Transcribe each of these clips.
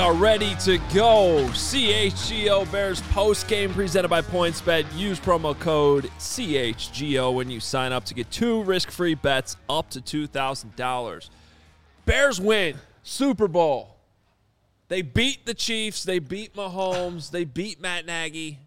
are ready to go. CHGO Bears postgame presented by PointsBet. Use promo code CHGO when you sign up to get 2 risk-free bets up to $2,000. Bears win Super Bowl. They beat the Chiefs. They beat Mahomes. They beat Matt Nagy.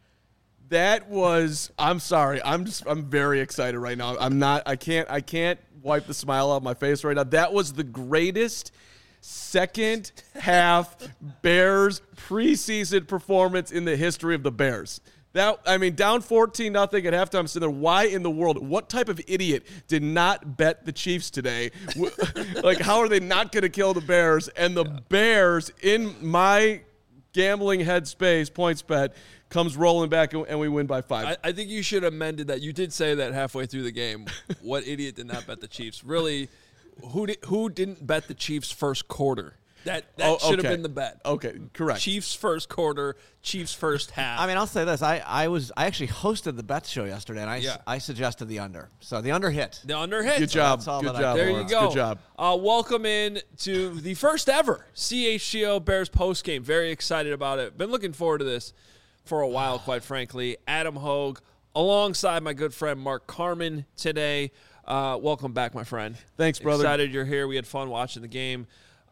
That was, I'm sorry. I'm very excited right now. I can't wipe the smile off my face right now. That was the greatest second half Bears preseason performance in the history of the Bears. Down 14-0 at halftime. I'm sitting there, why in the world? What type of idiot did not bet the Chiefs today? Like, how are they not going to kill the Bears? And the Bears, in my gambling headspace, PointsBet, comes rolling back, and we win by 5. I think you should have amended that. You did say that halfway through the game. What idiot did not bet the Chiefs? Really, who didn't bet the Chiefs first quarter? That should have been the bet. Okay, correct. Chiefs first quarter, Chiefs first half. I mean, I'll say this. I actually hosted the bet show yesterday, and I suggested the under. So the under hit. The under hit. Good job. Good job. There you go. Good job. Welcome in to the first ever CHGO Bears postgame. Very excited about it. Been looking forward to this for a while, quite frankly. Adam Hogue alongside my good friend Mark Carman today. Welcome back, my friend. Thanks, brother. Excited you're here. We had fun watching the game.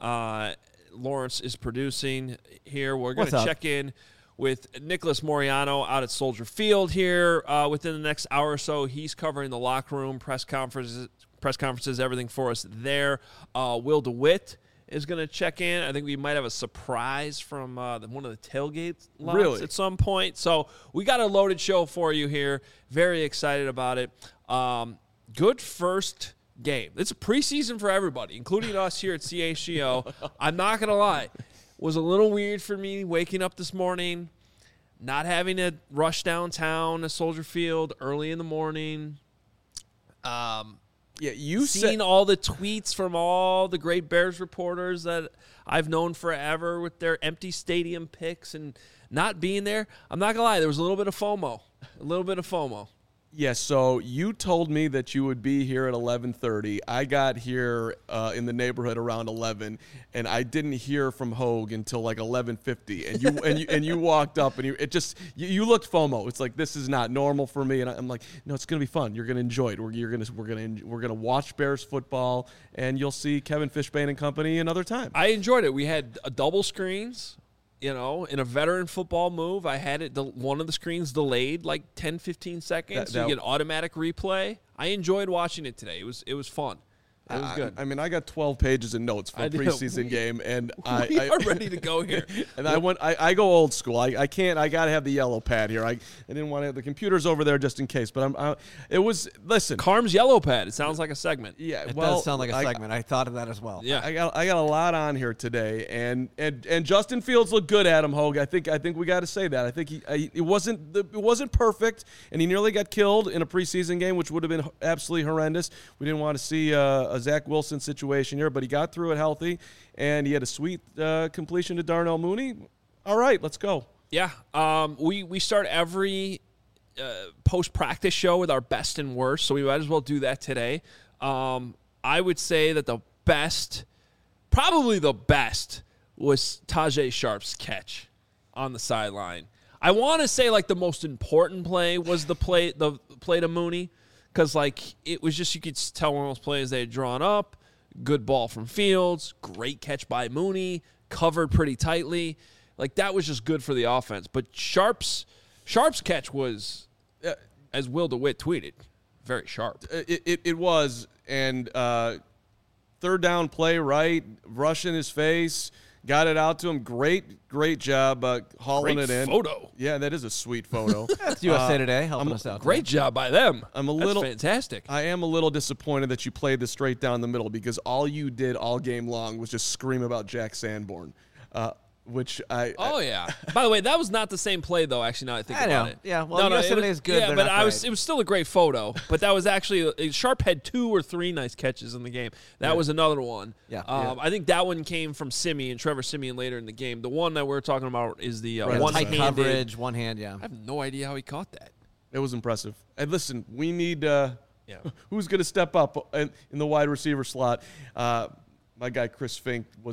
Lawrence is producing here. We're going to check in with Nicholas Moriano out at Soldier Field here within the next hour or so. He's covering the locker room, press conferences, everything for us there. Will DeWitt is going to check in. I think we might have a surprise from one of the tailgate lots at some point. So we got a loaded show for you here. Very excited about it. Good first game. It's a preseason for everybody, including us here at CHGO. I'm not going to lie. It was a little weird for me waking up this morning, not having to rush downtown to Soldier Field early in the morning. Seeing all the tweets from all the great Bears reporters that I've known forever with their empty stadium pics and not being there. I'm not going to lie. There was a little bit of FOMO. Yes, so you told me that you would be here at 11:30. I got here in the neighborhood around 11, and I didn't hear from Hogue until like 11:50. And you walked up, and you looked FOMO. It's like, this is not normal for me. And I'm like, no, it's gonna be fun. You're gonna enjoy it. We're gonna watch Bears football, and you'll see Kevin Fishbane and company another time. I enjoyed it. We had double screens. You know, in a veteran football move, I had one of the screens delayed like 10, 15 seconds. So you get automatic replay. I enjoyed watching it today. It was fun. It was good. I got 12 pages of notes for a preseason game, and we are ready to go here. And I go old school. I got to have the yellow pad here. I didn't want to have the computers over there just in case. But listen. Carm's yellow pad. It sounds like a segment. Yeah, it does sound like a segment. I thought of that as well. Yeah, I got a lot on here today, and Justin Fields looked good. Adam Hogue. I think we got to say that. I think it wasn't perfect, and he nearly got killed in a preseason game, which would have been absolutely horrendous. We didn't want to see a Zach Wilson situation here, but he got through it healthy, and he had a sweet completion to Darnell Mooney. All right, let's go. Yeah, we start every post-practice show with our best and worst, so we might as well do that today. I would say that probably the best, was Tajae Sharp's catch on the sideline. I want to say like the most important play was the play to Mooney. Because, it was just, you could tell one of those plays they had drawn up. Good ball from Fields. Great catch by Mooney. Covered pretty tightly. That was just good for the offense. But Sharp's catch was, as Will DeWitt tweeted, very sharp. It was. And third down play, right? Rush in his face. Got it out to him. Great job hauling it in. Photo. Yeah, that is a sweet photo. That's USA Today helping us out. Great job by them. That's fantastic. I am a little disappointed that you played this straight down the middle, because all you did all game long was just scream about Jack Sanborn. Which I yeah. By the way, that was not the same play though. Actually, now I think about it. Yeah, well, USA Today is good. Yeah, but it was still a great photo. But that was actually Sharp had 2 or 3 nice catches in the game. That was another one. Yeah. I think that one came from Simeon, Trevor Simeon later in the game. The one that we're talking about is the one-handed tight coverage, one hand. Yeah. I have no idea how he caught that. It was impressive. And listen, we need who's going to step up in the wide receiver slot. My guy Chris Fink was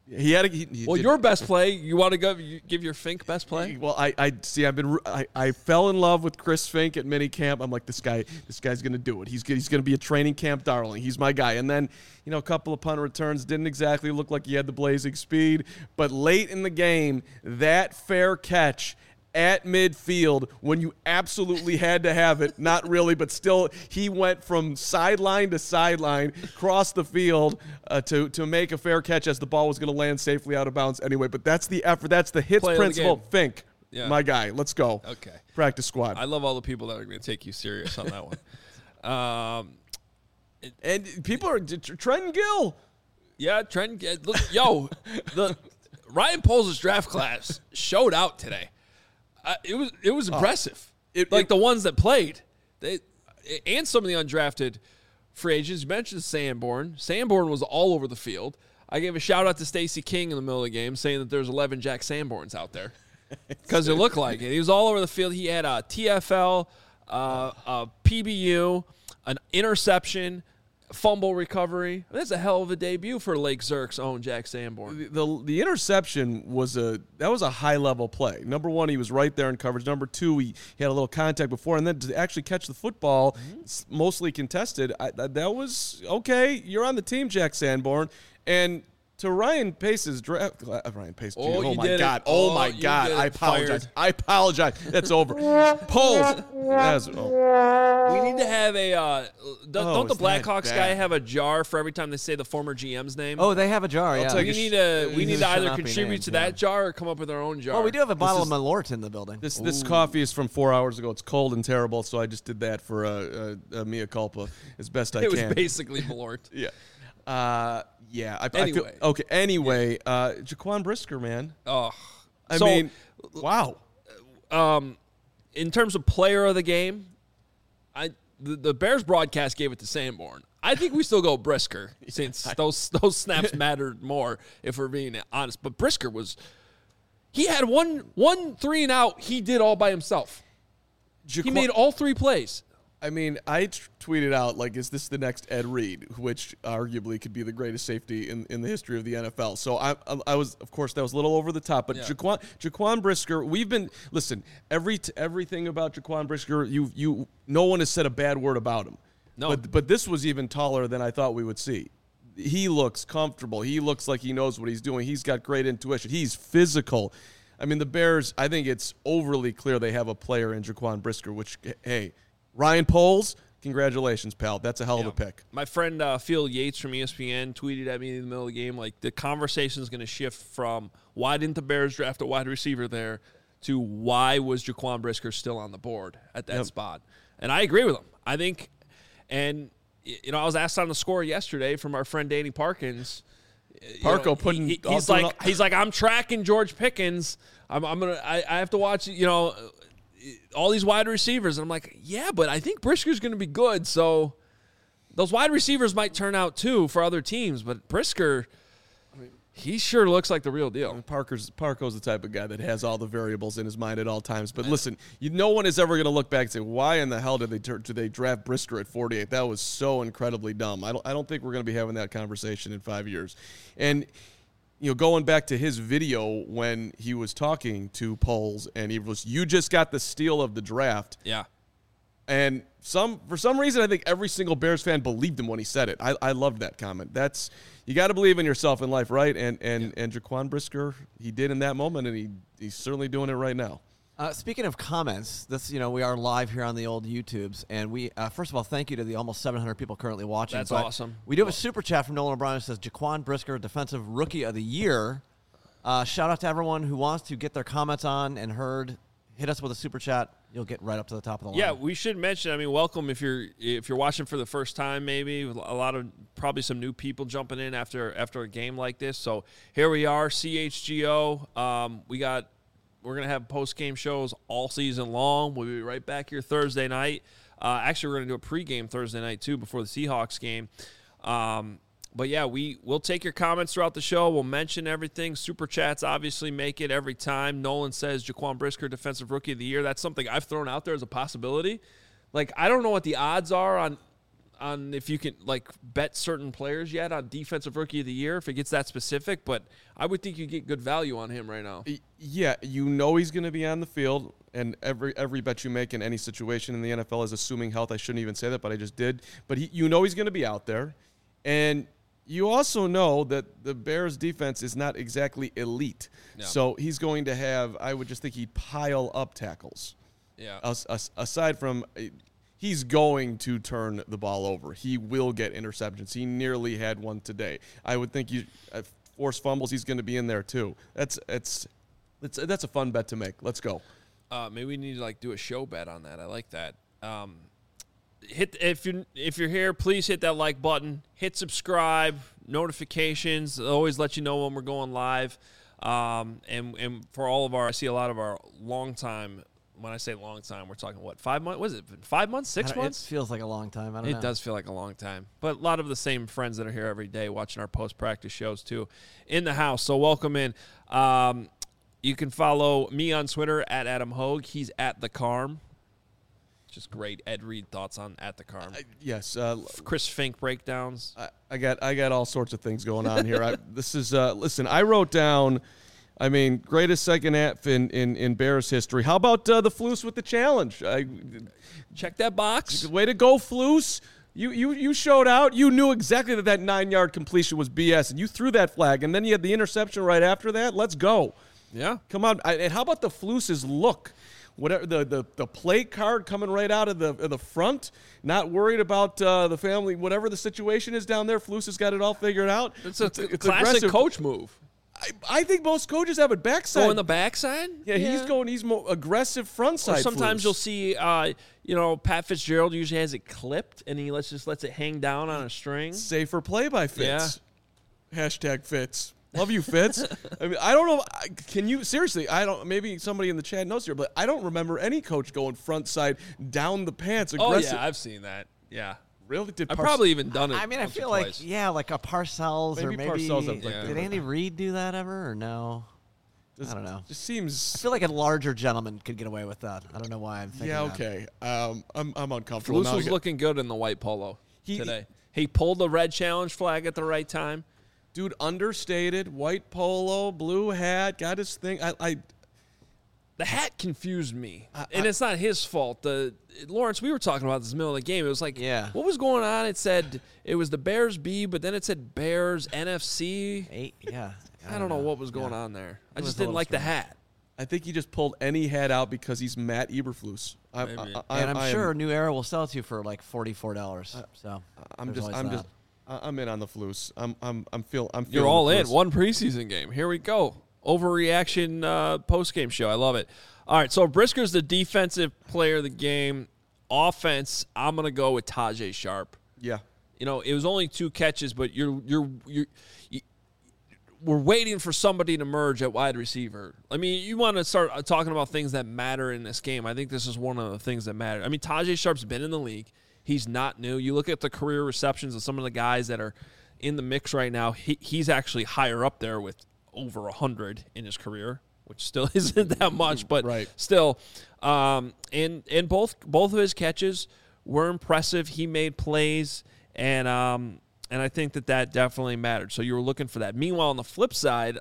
He had your best play. You want to give your Fink best play? Well, I see. I fell in love with Chris Fink at minicamp. I'm like, this guy's going to do it. He's going to be a training camp darling. He's my guy. And then, a couple of punt returns didn't exactly look like he had the blazing speed. But late in the game, that fair catch at midfield when you absolutely had to have it, not really, but still, he went from sideline to sideline, across the field to make a fair catch as the ball was going to land safely out of bounds anyway. But that's the effort. That's the hits principle. Fink, my guy. Let's go. Okay. Practice squad. I love all the people that are going to take you serious on that one. And people are Trent Gill. Yeah, Trent. Look, the Ryan Poles' draft class showed out today. It was impressive. The ones that played, and some of the undrafted free agents. You mentioned Sanborn. Sanborn was all over the field. I gave a shout out to Stacey King in the middle of the game, saying that there's 11 Jack Sanborns out there because it looked like it. He was all over the field. He had a TFL, a PBU, an interception, fumble recovery. That's a hell of a debut for Lake Zerk's own Jack Sanborn. The interception was a high level play. Number one, he was right there in coverage. Number two, he had a little contact before, and then to actually catch the football, mostly contested. That was okay. You're on the team, Jack Sanborn, and. To Ryan Pace's draft, Ryan Pace. Oh my God! Oh my God! I apologize. I apologize. That's over. Poles. We need to have a. Don't the Blackhawks guy have a jar for every time they say the former GM's name? Oh, they have a jar. Yeah. We need to either contribute to that jar or come up with our own jar. Oh, we do have a bottle of Malort in the building. This coffee is from 4 hours ago. It's cold and terrible, so I just did that for a mea culpa as best I can. It was basically Malort. Yeah. Anyway, Jaquan Brisker, man. Oh, I mean, wow. In terms of player of the game, the Bears broadcast gave it to Sanborn. I think we still go Brisker since those snaps mattered more, if we're being honest. But Brisker he had one 3 and out. He did all by himself. He made all 3 plays. I mean, I tweeted out, like, is this the next Ed Reed, which arguably could be the greatest safety in the history of the NFL. So I was, of course, that was a little over the top. But yeah. Jaquan Brisker, listen, everything about Jaquan Brisker, no one has said a bad word about him. No. But this was even taller than I thought we would see. He looks comfortable. He looks like he knows what he's doing. He's got great intuition. He's physical. I mean, the Bears, I think it's overly clear they have a player in Jaquan Brisker, which, hey, Ryan Poles, congratulations, pal. That's a hell of a pick. My friend Phil Yates from ESPN tweeted at me in the middle of the game, like, the conversation is going to shift from why didn't the Bears draft a wide receiver there to why was Jaquan Brisker still on the board at that spot. And I agree with him. I think, and, I was asked on the score yesterday from our friend Danny Parkins. He's like, I'm tracking George Pickens. I have to watch, all these wide receivers. And I'm like, yeah, but I think Brisker's going to be good. So those wide receivers might turn out too for other teams. But Brisker, he sure looks like the real deal. I mean, Parko's the type of guy that has all the variables in his mind at all times. But listen, no one is ever going to look back and say, why in the hell did they draft Brisker at 48? That was so incredibly dumb. I don't think we're going to be having that conversation in 5 years. And going back to his video when he was talking to Poles and you just got the steal of the draft. Yeah. And for some reason, I think every single Bears fan believed him when he said it. I loved that comment. You got to believe in yourself in life, right? And Jaquan Brisker, he did in that moment, and he's certainly doing it right now. Speaking of comments, we are live here on the old YouTubes, and we first of all, thank you to the almost 700 people currently watching. That's awesome. We do have a super chat from Nolan O'Brien that says Jaquan Brisker, Defensive Rookie of the Year. Shout out to everyone who wants to get their comments on and heard. Hit us with a super chat. You'll get right up to the top of the line. Yeah, we should mention. I mean, welcome if you're watching for the first time. Maybe a lot of probably some new people jumping in after a game like this. So here we are, CHGO. We're going to have post-game shows all season long. We'll be right back here Thursday night. Actually, we're going to do a pregame Thursday night, too, before the Seahawks game. But, yeah, we'll take your comments throughout the show. We'll mention everything. Super Chats obviously make it every time. Nolan says Jaquan Brisker, Defensive Rookie of the Year. That's something I've thrown out there as a possibility. Like, I don't know what the odds are on if you can like bet certain players yet on defensive rookie of the year if it gets that specific, but I would think you get good value on him right now. Yeah, he's going to be on the field, and every bet you make in any situation in the NFL is assuming health. I shouldn't even say that, but I just did. But he's going to be out there, and you also know that the Bears' defense is not exactly elite. No. So he's going to have, I would just think he'd pile up tackles. Yeah. Aside from, he's going to turn the ball over. He will get interceptions. He nearly had one today. I would think forced fumbles, he's going to be in there too. That's a fun bet to make. Let's go. Maybe we need to do a show bet on that. I like that. If you're here, please hit that like button. Hit subscribe, notifications. It'll always let you know when we're going live. And for all of I see a lot of our long time. When I say long time, we're talking 5 months? Was it 5 months? 6 months? It feels like a long time. I don't know. It does feel like a long time. But a lot of the same friends that are here every day watching our post-practice shows too in the house. So welcome in. You can follow me on Twitter at Adam Hogue. He's at the Carm. Just great. Ed Reed thoughts on at the Carm. Yes. Chris Fink breakdowns. I got all sorts of things going on here. Listen, I wrote down, greatest second half in Bears history. How about the Flus with the challenge? Check that box. Way to go, Flus. You showed out. You knew exactly that 9-yard completion was BS, and you threw that flag, and then you had the interception right after that. Let's go. Yeah. Come on. And how about the Flus's look? Whatever the plate card coming right out of the front, not worried about the family, whatever the situation is down there. Flus has got it all figured out. It's a classic aggressive coach move. I think most coaches have it backside. Go on the backside? Yeah, he's more aggressive front side. Or sometimes Flus. You'll see, Pat Fitzgerald usually has it clipped, and he lets it hang down on a string. Safer play by Fitz. Yeah. #Fitz. Love you, Fitz. I don't know. Can you seriously? Maybe somebody in the chat knows here, but I don't remember any coach going front side down the pants aggressive. Oh yeah, I've seen that. Yeah. Really? I've probably even done it. I feel like like a Parcells maybe or maybe Parcells. Did Andy Reid do that ever or no? I don't know. Just seems. I feel like a larger gentleman could get away with that. I don't know why I'm thinking. Yeah. Okay. I'm uncomfortable. Flus was looking good in the white polo today. He pulled the red challenge flag at the right time. Dude, understated, white polo, blue hat, got his thing. The hat confused me, and it's not his fault. Lawrence, we were talking about this in the middle of the game. It was like, what was going on? It said it was the Bears B, but then it said Bears NFC. I don't know what was going on there. I just didn't like the hat. I think he just pulled any hat out because he's Matt Eberflus. I'm sure New Era will sell it to you for like $44. So I'm in on the Flus. I'm feeling. You're all in. One preseason game. Here we go. Overreaction post-game show. I love it. All right, so Brisker's the defensive player of the game. Offense, I'm going to go with Tajae Sharpe. Yeah. It was only 2 catches, but we're waiting for somebody to emerge at wide receiver. You want to start talking about things that matter in this game. I think this is one of the things that matter. Tajae Sharpe's been in the league. He's not new. You look at the career receptions of some of the guys that are in the mix right now. He's actually higher up there with over 100 in his career, which still isn't that much, but still. And both of his catches were impressive. He made plays, and I think that definitely mattered. So you were looking for that. Meanwhile, on the flip side,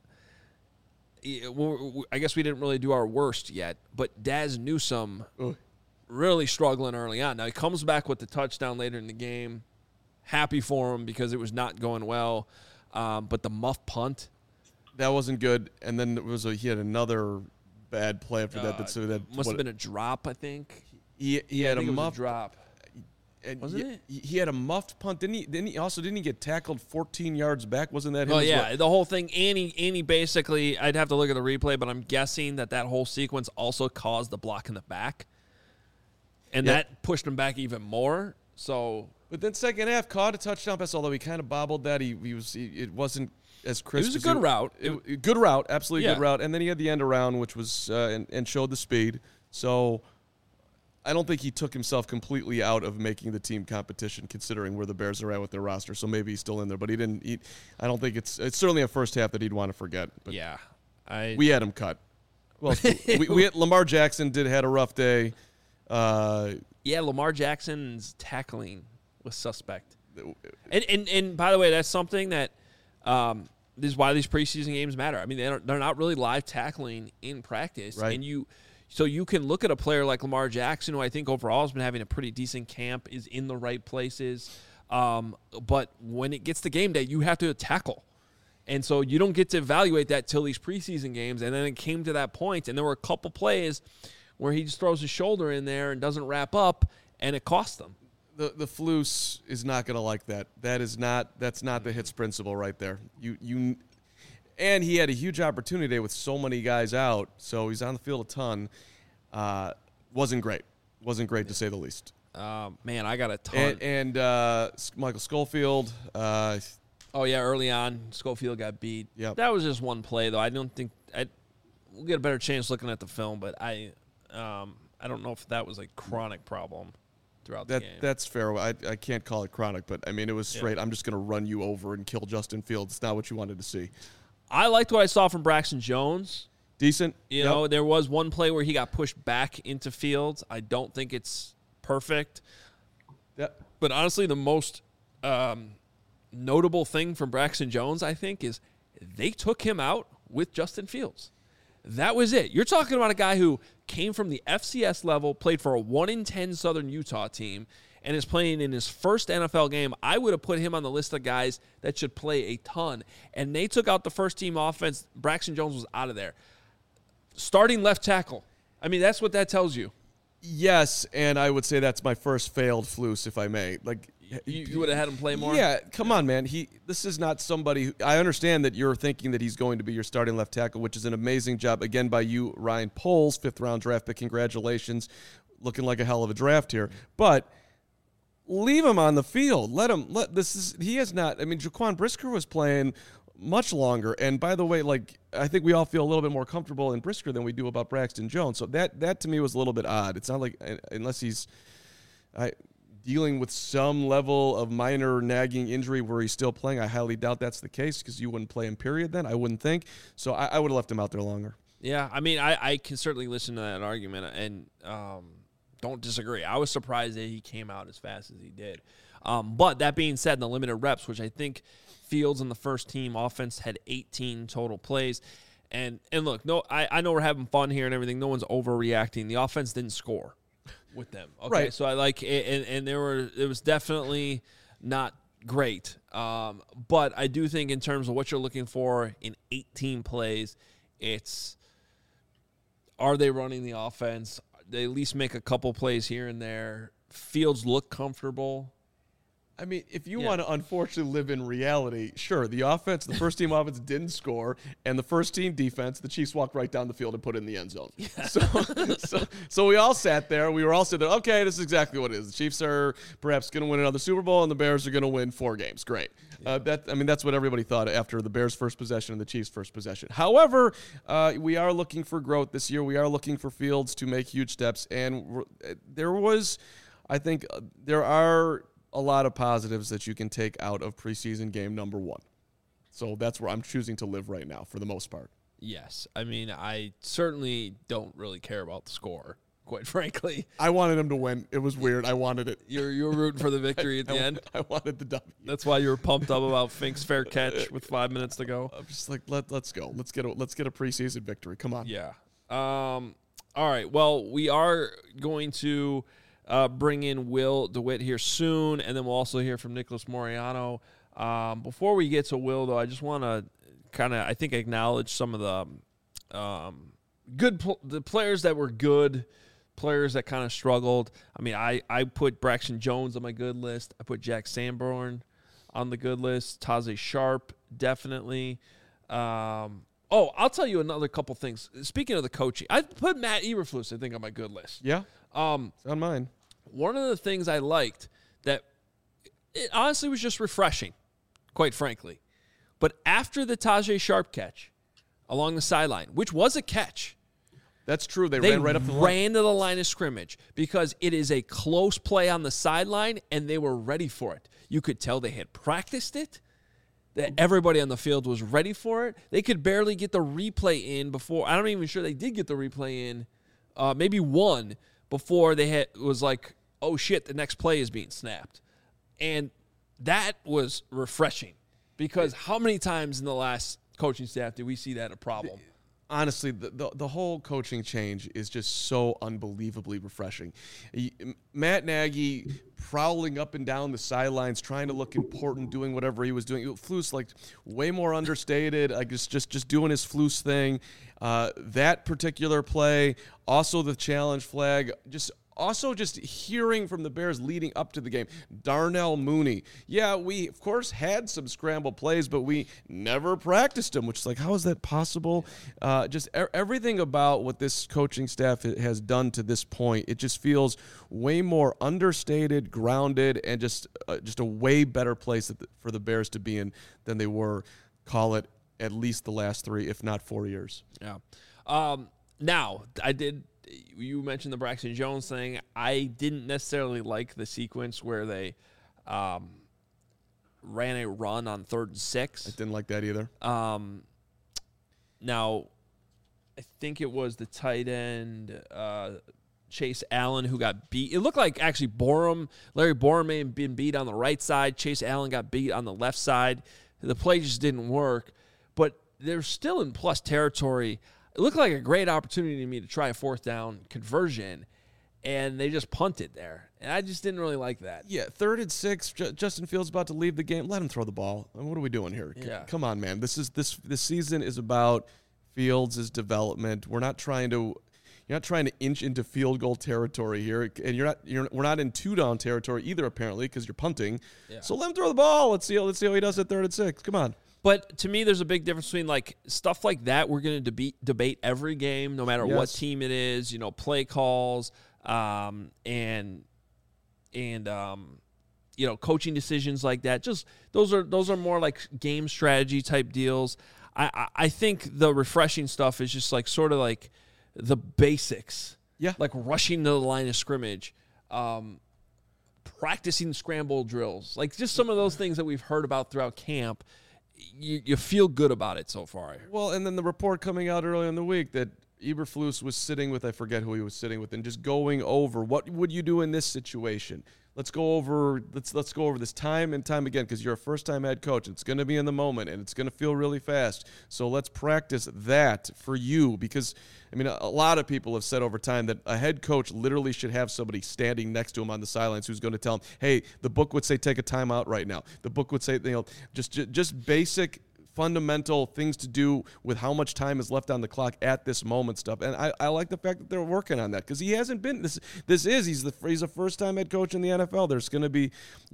I guess we didn't really do our worst yet, but Daz Newsome really struggling early on. Now he comes back with the touchdown later in the game. Happy for him because it was not going well. But the muff punt, that wasn't good. And then he had another bad play after that. That must have been a drop, I think. He had a muff drop. And wasn't it? He had a muffed punt. Didn't he get tackled 14 yards back? Wasn't that him? Oh yeah, the whole thing. Annie basically. I'd have to look at the replay, but I'm guessing that whole sequence also caused the block in the back. And that pushed him back even more. So, but then second half caught a touchdown pass. Although he kind of bobbled that, it wasn't as crisp. It was a good route. Good route, absolutely good route. And then he had the end around, which was and showed the speed. So, I don't think he took himself completely out of making the team competition, considering where the Bears are at with their roster. So maybe he's still in there, but he didn't. I don't think it's certainly a first half that he'd want to forget. But we had him cut. Well, we had Lamar Jackson had a rough day. Lamar Jackson's tackling was suspect. And by the way, that's something that this is why these preseason games matter. I mean, they're not really live tackling in practice, right. And so you can look at a player like Lamar Jackson, who I think overall has been having a pretty decent camp, is in the right places. But when it gets to game day, you have to tackle. And so you don't get to evaluate that till these preseason games. And then it came to that point, and there were a couple plays where he just throws his shoulder in there and doesn't wrap up, and it cost them. The Flus is not going to like that. That's not the hits principle right there. And he had a huge opportunity today with so many guys out, so he's on the field a ton. Wasn't great to say the least. Man, I got a ton. And Michael Schofield. Early on, Schofield got beat. Yep. That was just one play, though. I don't think we'll get a better chance looking at the film, but I don't know if that was a chronic problem throughout the game. That's fair. I can't call it chronic, but I mean it was straight. Yeah. I'm just going to run you over and kill Justin Fields. It's not what you wanted to see. I liked what I saw from Braxton Jones. Decent. You know, there was one play where he got pushed back into Fields. I don't think it's perfect. Yep. But honestly, the most notable thing from Braxton Jones, I think, is they took him out with Justin Fields. That was it. You're talking about a guy who came from the FCS level, played for a 1-10 Southern Utah team, and is playing in his first NFL game. I would have put him on the list of guys that should play a ton. And they took out the first-team offense. Braxton Jones was out of there. Starting left tackle. I mean, that's what that tells you. Yes, and I would say that's my first failed Flus, if I may. Like you would have had him play more? Yeah, come on, man. This is not somebody I understand that you're thinking that he's going to be your starting left tackle, which is an amazing job, again, by you, Ryan Poles, 5th-round draft pick. Congratulations. Looking like a hell of a draft here. But leave him on the field. He has not. I mean, Jaquan Brisker was playing much longer. And by the way, like, I think we all feel a little bit more comfortable in Brisker than we do about Braxton Jones. So that to me was a little bit odd. It's not like, unless he's dealing with some level of minor nagging injury where he's still playing, I highly doubt that's the case because you wouldn't play him, period, then. I wouldn't think. So I would have left him out there longer. Yeah, I mean, I can certainly listen to that argument and don't disagree. I was surprised that he came out as fast as he did. But that being said, in the limited reps, which I think Fields and the first team offense had 18 total plays. And look, I know we're having fun here and everything. No one's overreacting. The offense didn't score with them. Okay, right. So I like it, and it was definitely not great. But I do think in terms of what you're looking for in 18 plays, it's are they running the offense? They at least make a couple plays here and there. Fields look comfortable. I mean, if you want to unfortunately live in reality, sure, the first-team offense didn't score, and the first-team defense, the Chiefs walked right down the field and put it in the end zone. Yeah. So we all sat there. We were all sitting there, okay, this is exactly what it is. The Chiefs are perhaps going to win another Super Bowl, and the Bears are going to win 4 games. Great. Yeah. That's what everybody thought after the Bears' first possession and the Chiefs' first possession. However, we are looking for growth this year. We are looking for Fields to make huge steps, and there are a lot of positives that you can take out of preseason game number 1. So that's where I'm choosing to live right now for the most part. Yes. I mean, I certainly don't really care about the score, quite frankly. I wanted him to win. It was weird. I wanted it. You were rooting for the victory at the end? I wanted the W. That's why you were pumped up about Fink's fair catch with 5 minutes to go? I'm just like, let's go. Let's get a preseason victory. Come on. Yeah. All right. Well, we are going to bring in Will DeWitt here soon, and then we'll also hear from Nicholas Moreano. Before we get to Will, though, I just want to kind of, I think, acknowledge some of the the players that were good, players that kind of struggled. I mean, I put Braxton Jones on my good list. I put Jack Sanborn on the good list. Taze Sharp, definitely. I'll tell you another couple things. Speaking of the coaching, I put Matt Eberflus, I think, on my good list. Yeah. It's on mine. One of the things I liked that it honestly was just refreshing, quite frankly. But after the Taze Sharp catch along the sideline, which was a catch. That's true. They ran right up the line. Ran to the line of scrimmage because it is a close play on the sideline, and they were ready for it. You could tell they had practiced it, that everybody on the field was ready for it. They could barely get the replay in before. I'm not even sure they did get the replay in. Maybe one before it was like, oh, shit, the next play is being snapped. And that was refreshing because how many times in the last coaching staff did we see that a problem? Honestly, the whole coaching change is just so unbelievably refreshing. Matt Nagy prowling up and down the sidelines, trying to look important, doing whatever he was doing. Flus, like, way more understated, like just doing his Flus thing. That particular play, also the challenge flag, also just hearing from the Bears leading up to the game. Darnell Mooney. Yeah, we, of course, had some scramble plays, but we never practiced them, which is like, how is that possible? Just everything about what this coaching staff has done to this point, it just feels way more understated, grounded, and just a way better place for the Bears to be in than they were, call it, at least the last 3, if not 4 years. Yeah. Now, you mentioned the Braxton Jones thing. I didn't necessarily like the sequence where they ran a run on 3rd and 6. I didn't like that either. Now, I think it was the tight end, Chase Allen, who got beat. It looked like actually Larry Borum may have been beat on the right side. Chase Allen got beat on the left side. The play just didn't work. But they're still in plus territory. It looked like a great opportunity to me to try a 4th down conversion, and they just punted there. And I just didn't really like that. Yeah, 3rd and 6, Justin Fields about to leave the game. Let him throw the ball. I mean, what are we doing here? Yeah. Come on, man. This season is about Fields' development. We're not trying to You're not trying to inch into field goal territory here, and we're not in 2-down territory either, apparently, because you're punting. Yeah. So let him throw the ball. Let's see how he does at 3rd and 6. Come on. But to me, there's a big difference between like stuff like that. We're going to debate every game, no matter what team it is. Play calls, and coaching decisions like that. Just those are more like game strategy type deals. I think the refreshing stuff is just like sort of like the basics. Yeah, like rushing to the line of scrimmage, practicing scramble drills, like just some of those things that we've heard about throughout camp. You feel good about it so far. Well, and then the report coming out earlier in the week that Eberflus was sitting with, I forget who he was sitting with, and just going over what would you do in this situation. Let's go over this time and time again, because you're a first-time head coach. It's going to be in the moment, and it's going to feel really fast. So let's practice that for you, because, I mean, a lot of people have said over time that a head coach literally should have somebody standing next to him on the sidelines who's going to tell him, hey, the book would say take a timeout right now. The book would say, just basic fundamental things to do with how much time is left on the clock at this moment stuff. And I like the fact that they're working on that, because he hasn't been he's a first-time head coach in the NFL. There's going to be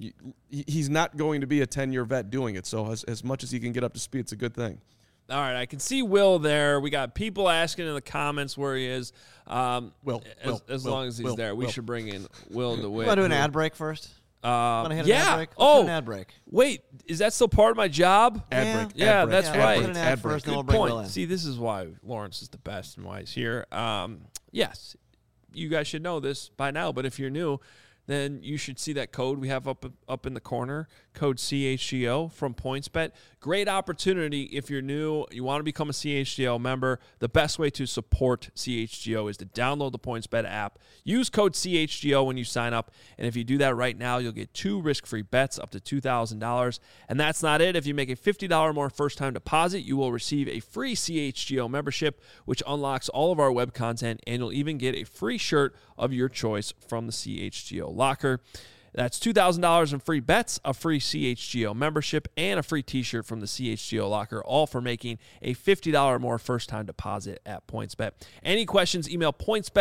he's not going to be a 10-year vet doing it. So as much as he can get up to speed, it's a good thing. All right, I can see Will there. We got people asking in the comments where he is. Will, as long as he's there, we should bring in Will DeWitt. You want to do an ad break first? Want to hit an ad break? Let's do an ad break. Wait, is that still part of my job? Ad break. Yeah, that's right. Put an ad first, and we'll Good bring point. Will in. See, this is why Lawrence is the best and why he's here. Yes, you guys should know this by now, but if you're new, then you should see that code we have up in the corner, code CHGO from PointsBet. Great opportunity if you're new, you want to become a CHGO member. The best way to support CHGO is to download the PointsBet app. Use code CHGO when you sign up, and if you do that right now, you'll get 2 risk-free bets up to $2,000. And that's not it. If you make a $50 more first-time deposit, you will receive a free CHGO membership, which unlocks all of our web content, and you'll even get a free shirt of your choice from the CHGO locker. That's $2,000 in free bets, a free CHGO membership, and a free t-shirt from the CHGO locker, all for making a $50 or more first-time deposit at PointsBet. Any questions, email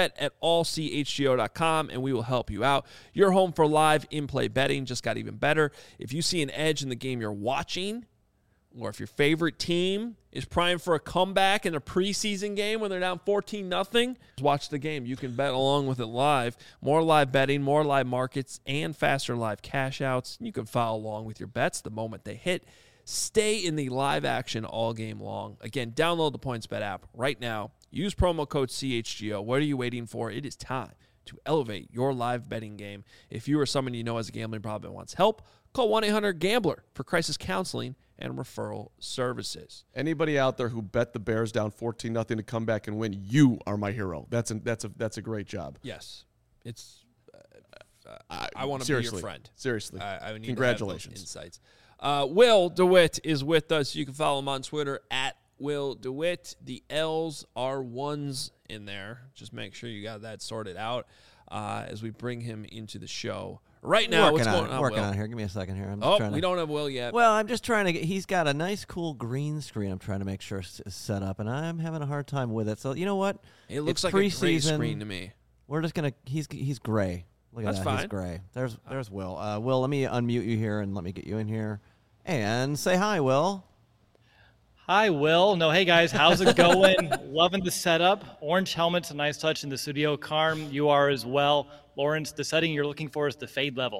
pointsbet@allchgo.com, and we will help you out. Your home for live in-play betting just got even better. If you see an edge in the game you're watching, or if your favorite team is primed for a comeback in a preseason game when they're down 14-0, watch the game. You can bet along with it live. More live betting, more live markets, and faster live cash outs. You can follow along with your bets the moment they hit. Stay in the live action all game long. Again, download the PointsBet app right now. Use promo code CHGO. What are you waiting for? It is time to elevate your live betting game. If you or someone you know has a gambling problem and wants help, call 1-800-GAMBLER for crisis counseling and referral services. Anybody out there who bet the Bears down 14-0 to come back and win, you are my hero. That's a great job. Yes, it's I want to be your friend. Seriously. I need Congratulations. To have those insights. Will DeWitt is with us. You can follow him on Twitter at Will DeWitt. The L's are ones in there. Just make sure you got that sorted out as we bring him into the show. Right now, what's going on, Working Will? on here. Give me a second here. We don't have Will yet. Well, I'm just trying to get. He's got a nice, cool green screen. I'm trying to make sure it's set up, and I'm having a hard time with it. So you know what? It looks like a gray screen to me. We're just gonna. He's gray. Look at That's that. fine. He's gray. There's Will. Will, let me unmute you here and let me get you in here, and say hi, Will. Hi, Will. No, hey, guys. How's it going? Loving the setup. Orange helmet's a nice touch in the studio. Carm, you are as well. Lawrence, the setting you're looking for is the fade level.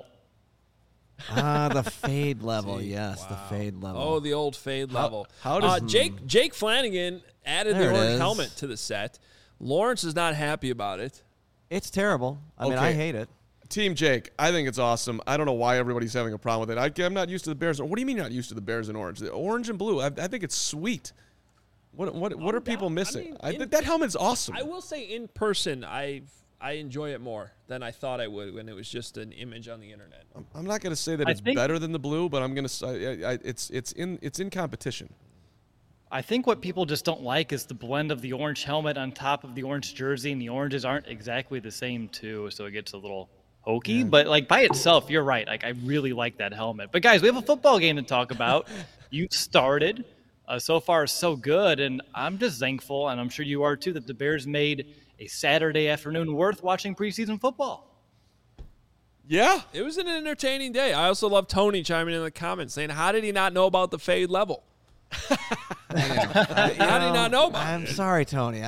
The fade level. Yes, wow. The fade level. Oh, the old fade level. How does Jake Flanagan added There the it orange is. helmet to the set. Lawrence is not happy about it. It's terrible. I mean, I hate it. Team Jake, I think it's awesome. I don't know why everybody's having a problem with it. I'm not used to the Bears. What do you mean you're not used to the Bears in orange? The orange and blue, I think it's sweet. What are people missing? That helmet's awesome. I will say in person, I enjoy it more than I thought I would when it was just an image on the internet. I'm not going to say that it's better than the blue, but I'm going to say it's in competition. I think what people just don't like is the blend of the orange helmet on top of the orange jersey, and the oranges aren't exactly the same, too, so it gets a little hokey. Yeah. But, like, by itself, you're right. Like, I really like that helmet. But, guys, we have a football game to talk about. You started. So far, so good, and I'm just thankful, and I'm sure you are, too, that the Bears made a Saturday afternoon worth watching preseason football. Yeah. It was an entertaining day. I also love Tony chiming in the comments saying, how did he not know about the fade level? How did he not know about it? I'm sorry, Tony.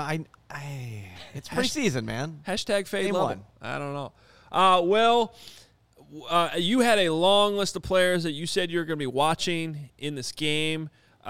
It's preseason, man. Hashtag fade Game level. one. I don't know. Will, you had a long list of players that you said you were going to be watching in this game.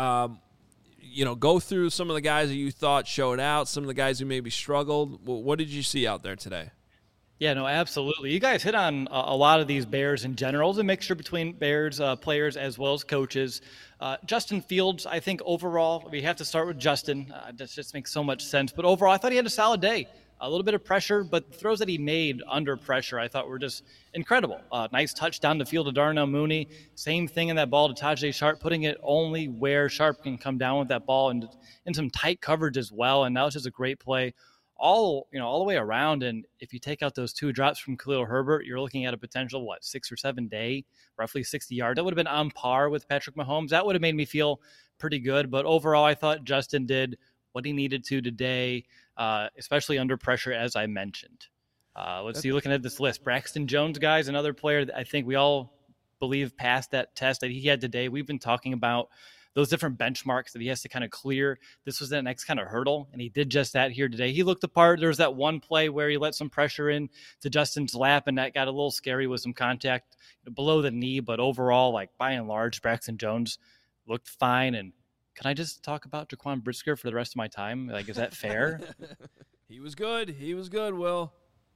Go through some of the guys that you thought showed out, some of the guys who maybe struggled. What did you see out there today? Yeah, no, absolutely. You guys hit on a lot of these Bears in general. It's a mixture between Bears players as well as coaches. Justin Fields, I think overall, we have to start with Justin. That just makes so much sense. But overall, I thought he had a solid day. A little bit of pressure, but the throws that he made under pressure, I thought were just incredible. Nice touch down the field to Darnell Mooney. Same thing in that ball to Tajay Sharp, putting it only where Sharp can come down with that ball and in some tight coverage as well. And that was just a great play all the way around. And if you take out those two drops from Khalil Herbert, you're looking at a potential, 6 or 7 day, roughly 60 yards. That would have been on par with Patrick Mahomes. That would have made me feel pretty good. But overall, I thought Justin did what he needed to today, especially under pressure, as I mentioned. Let's see, looking at this list. Braxton Jones, guys, another player that I think we all believe passed that test that he had today. We've been talking about those different benchmarks that he has to kind of clear. This was the next kind of hurdle, and he did just that here today. He looked the part. There was that one play where he let some pressure in to Justin's lap, and that got a little scary with some contact below the knee. But overall, by and large, Braxton Jones looked fine. And can I just talk about Jaquan Brisker for the rest of my time? Is that fair? He was good. He was good, Will.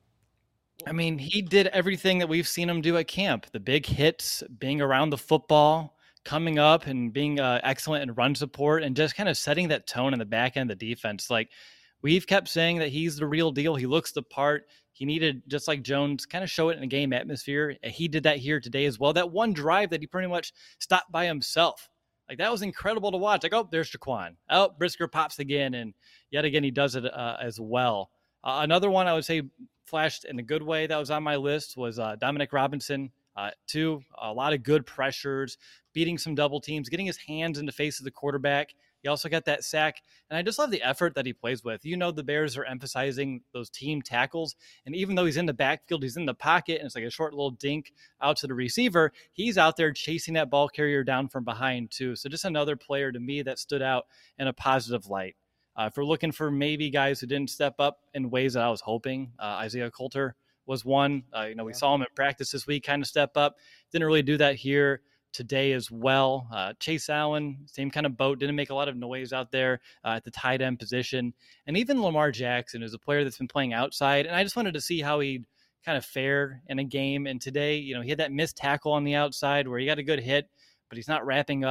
I mean, he did everything that we've seen him do at camp. The big hits, being around the football, coming up and being excellent in run support, and just kind of setting that tone in the back end of the defense. We've kept saying that he's the real deal. He looks the part. He needed, just like Jones, kind of show it in a game atmosphere. He did that here today as well. That one drive that he pretty much stopped by himself. That was incredible to watch. There's Jaquan. Oh, Brisker pops again, and yet again he does it as well. Another one I would say flashed in a good way that was on my list was Dominic Robinson. Too, a lot of good pressures, beating some double teams, getting his hands in the face of the quarterback. He also got that sack, and I just love the effort that he plays with. The Bears are emphasizing those team tackles, and even though he's in the backfield, he's in the pocket, and it's like a short little dink out to the receiver, he's out there chasing that ball carrier down from behind too. So just another player to me that stood out in a positive light. If we're looking for maybe guys who didn't step up in ways that I was hoping, Isaiah Coulter was one. We saw him at practice this week kind of step up. Didn't really do that here today as well. Chase Allen, same kind of boat, didn't make a lot of noise out there at the tight end position. And even Lamar Jackson is a player that's been playing outside, and I just wanted to see how he'd kind of fare in a game. And today, he had that missed tackle on the outside where he got a good hit, but he's not wrapping up.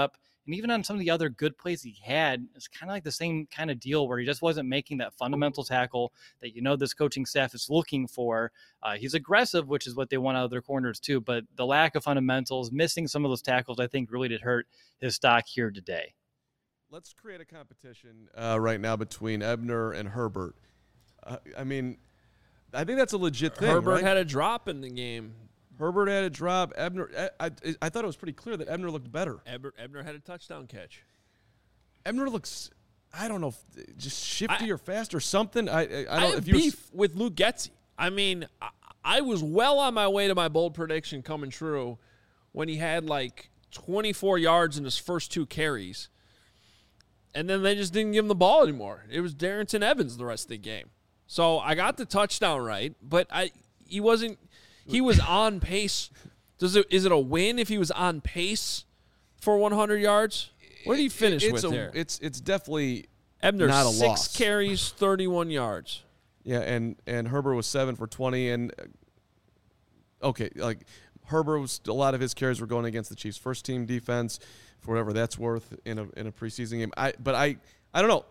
And even on some of the other good plays he had, it's kind of like the same kind of deal where he just wasn't making that fundamental tackle that this coaching staff is looking for. He's aggressive, which is what they want out of their corners too, but the lack of fundamentals, missing some of those tackles, I think really did hurt his stock here today. Let's create a competition right now between Ebner and Herbert. I mean, I think that's a legit thing. Herbert right? had a drop in the game. Herbert had a drop. Ebner, I thought it was pretty clear that Ebner looked better. Ebner had a touchdown catch. Ebner looks, I don't know, just shifty or fast or something. I don't. I have beef with Luke Getsy. I mean, I was well on my way to my bold prediction coming true when he had like 24 yards in his first 2 carries. And then they just didn't give him the ball anymore. It was Darrynton Evans the rest of the game. So I got the touchdown right, but he was on pace. Is it a win if he was on pace for 100 yards? What did he finish with there? It's definitely Ebner, not a 6 loss. carries, 31 yards. Yeah, and Herbert was 7 for 20. And, okay, like Herbert was, a lot of his carries were going against the Chiefs' first-team defense, for whatever that's worth in a preseason game. I don't know.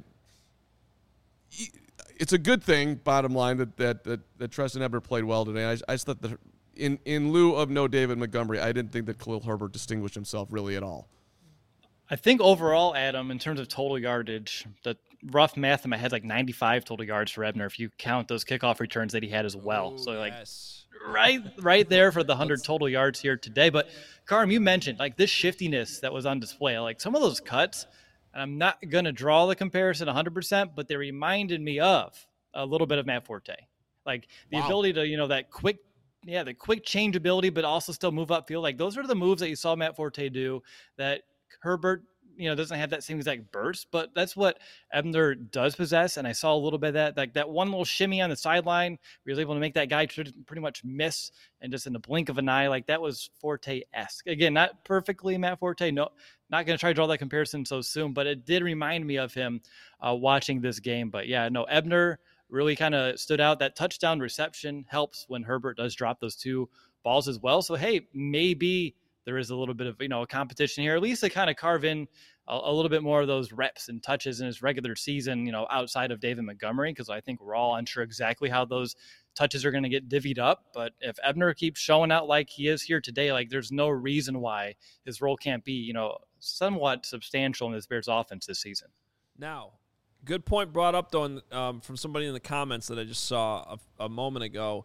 It's a good thing, bottom line, that Trestan Ebner played well today. I just thought that in lieu of no David Montgomery, I didn't think that Khalil Herbert distinguished himself really at all. I think overall, Adam, in terms of total yardage, the rough math in my head, like 95 total yards for Ebner, if you count those kickoff returns that he had as well. Ooh, so like yes. right there for the 100 total yards here today. But Carm, you mentioned like this shiftiness that was on display, like some of those cuts, and I'm not going to draw the comparison 100%, but they reminded me of a little bit of Matt Forte. Like the ability to, that quick, the quick change ability, but also still move upfield. Like those are the moves that you saw Matt Forte do that Herbert, doesn't have that same exact burst, but that's what Ebner does possess. And I saw a little bit of that, like that one little shimmy on the sideline, where he was able to make that guy pretty much miss, and just in the blink of an eye, like that was Forte-esque. Again, not perfectly Matt Forte. No, not going to try to draw that comparison so soon, but it did remind me of him watching this game. But yeah, no, Ebner really kind of stood out. That touchdown reception helps when Herbert does drop those 2 balls as well. So, hey, maybe there is a little bit of, a competition here, at least to kind of carve in a little bit more of those reps and touches in his regular season, outside of David Montgomery, because I think we're all unsure exactly how those touches are going to get divvied up. But if Ebner keeps showing out like he is here today, like there's no reason why his role can't be, somewhat substantial in this Bears offense this season. Now, good point brought up, though, from somebody in the comments that I just saw a moment ago.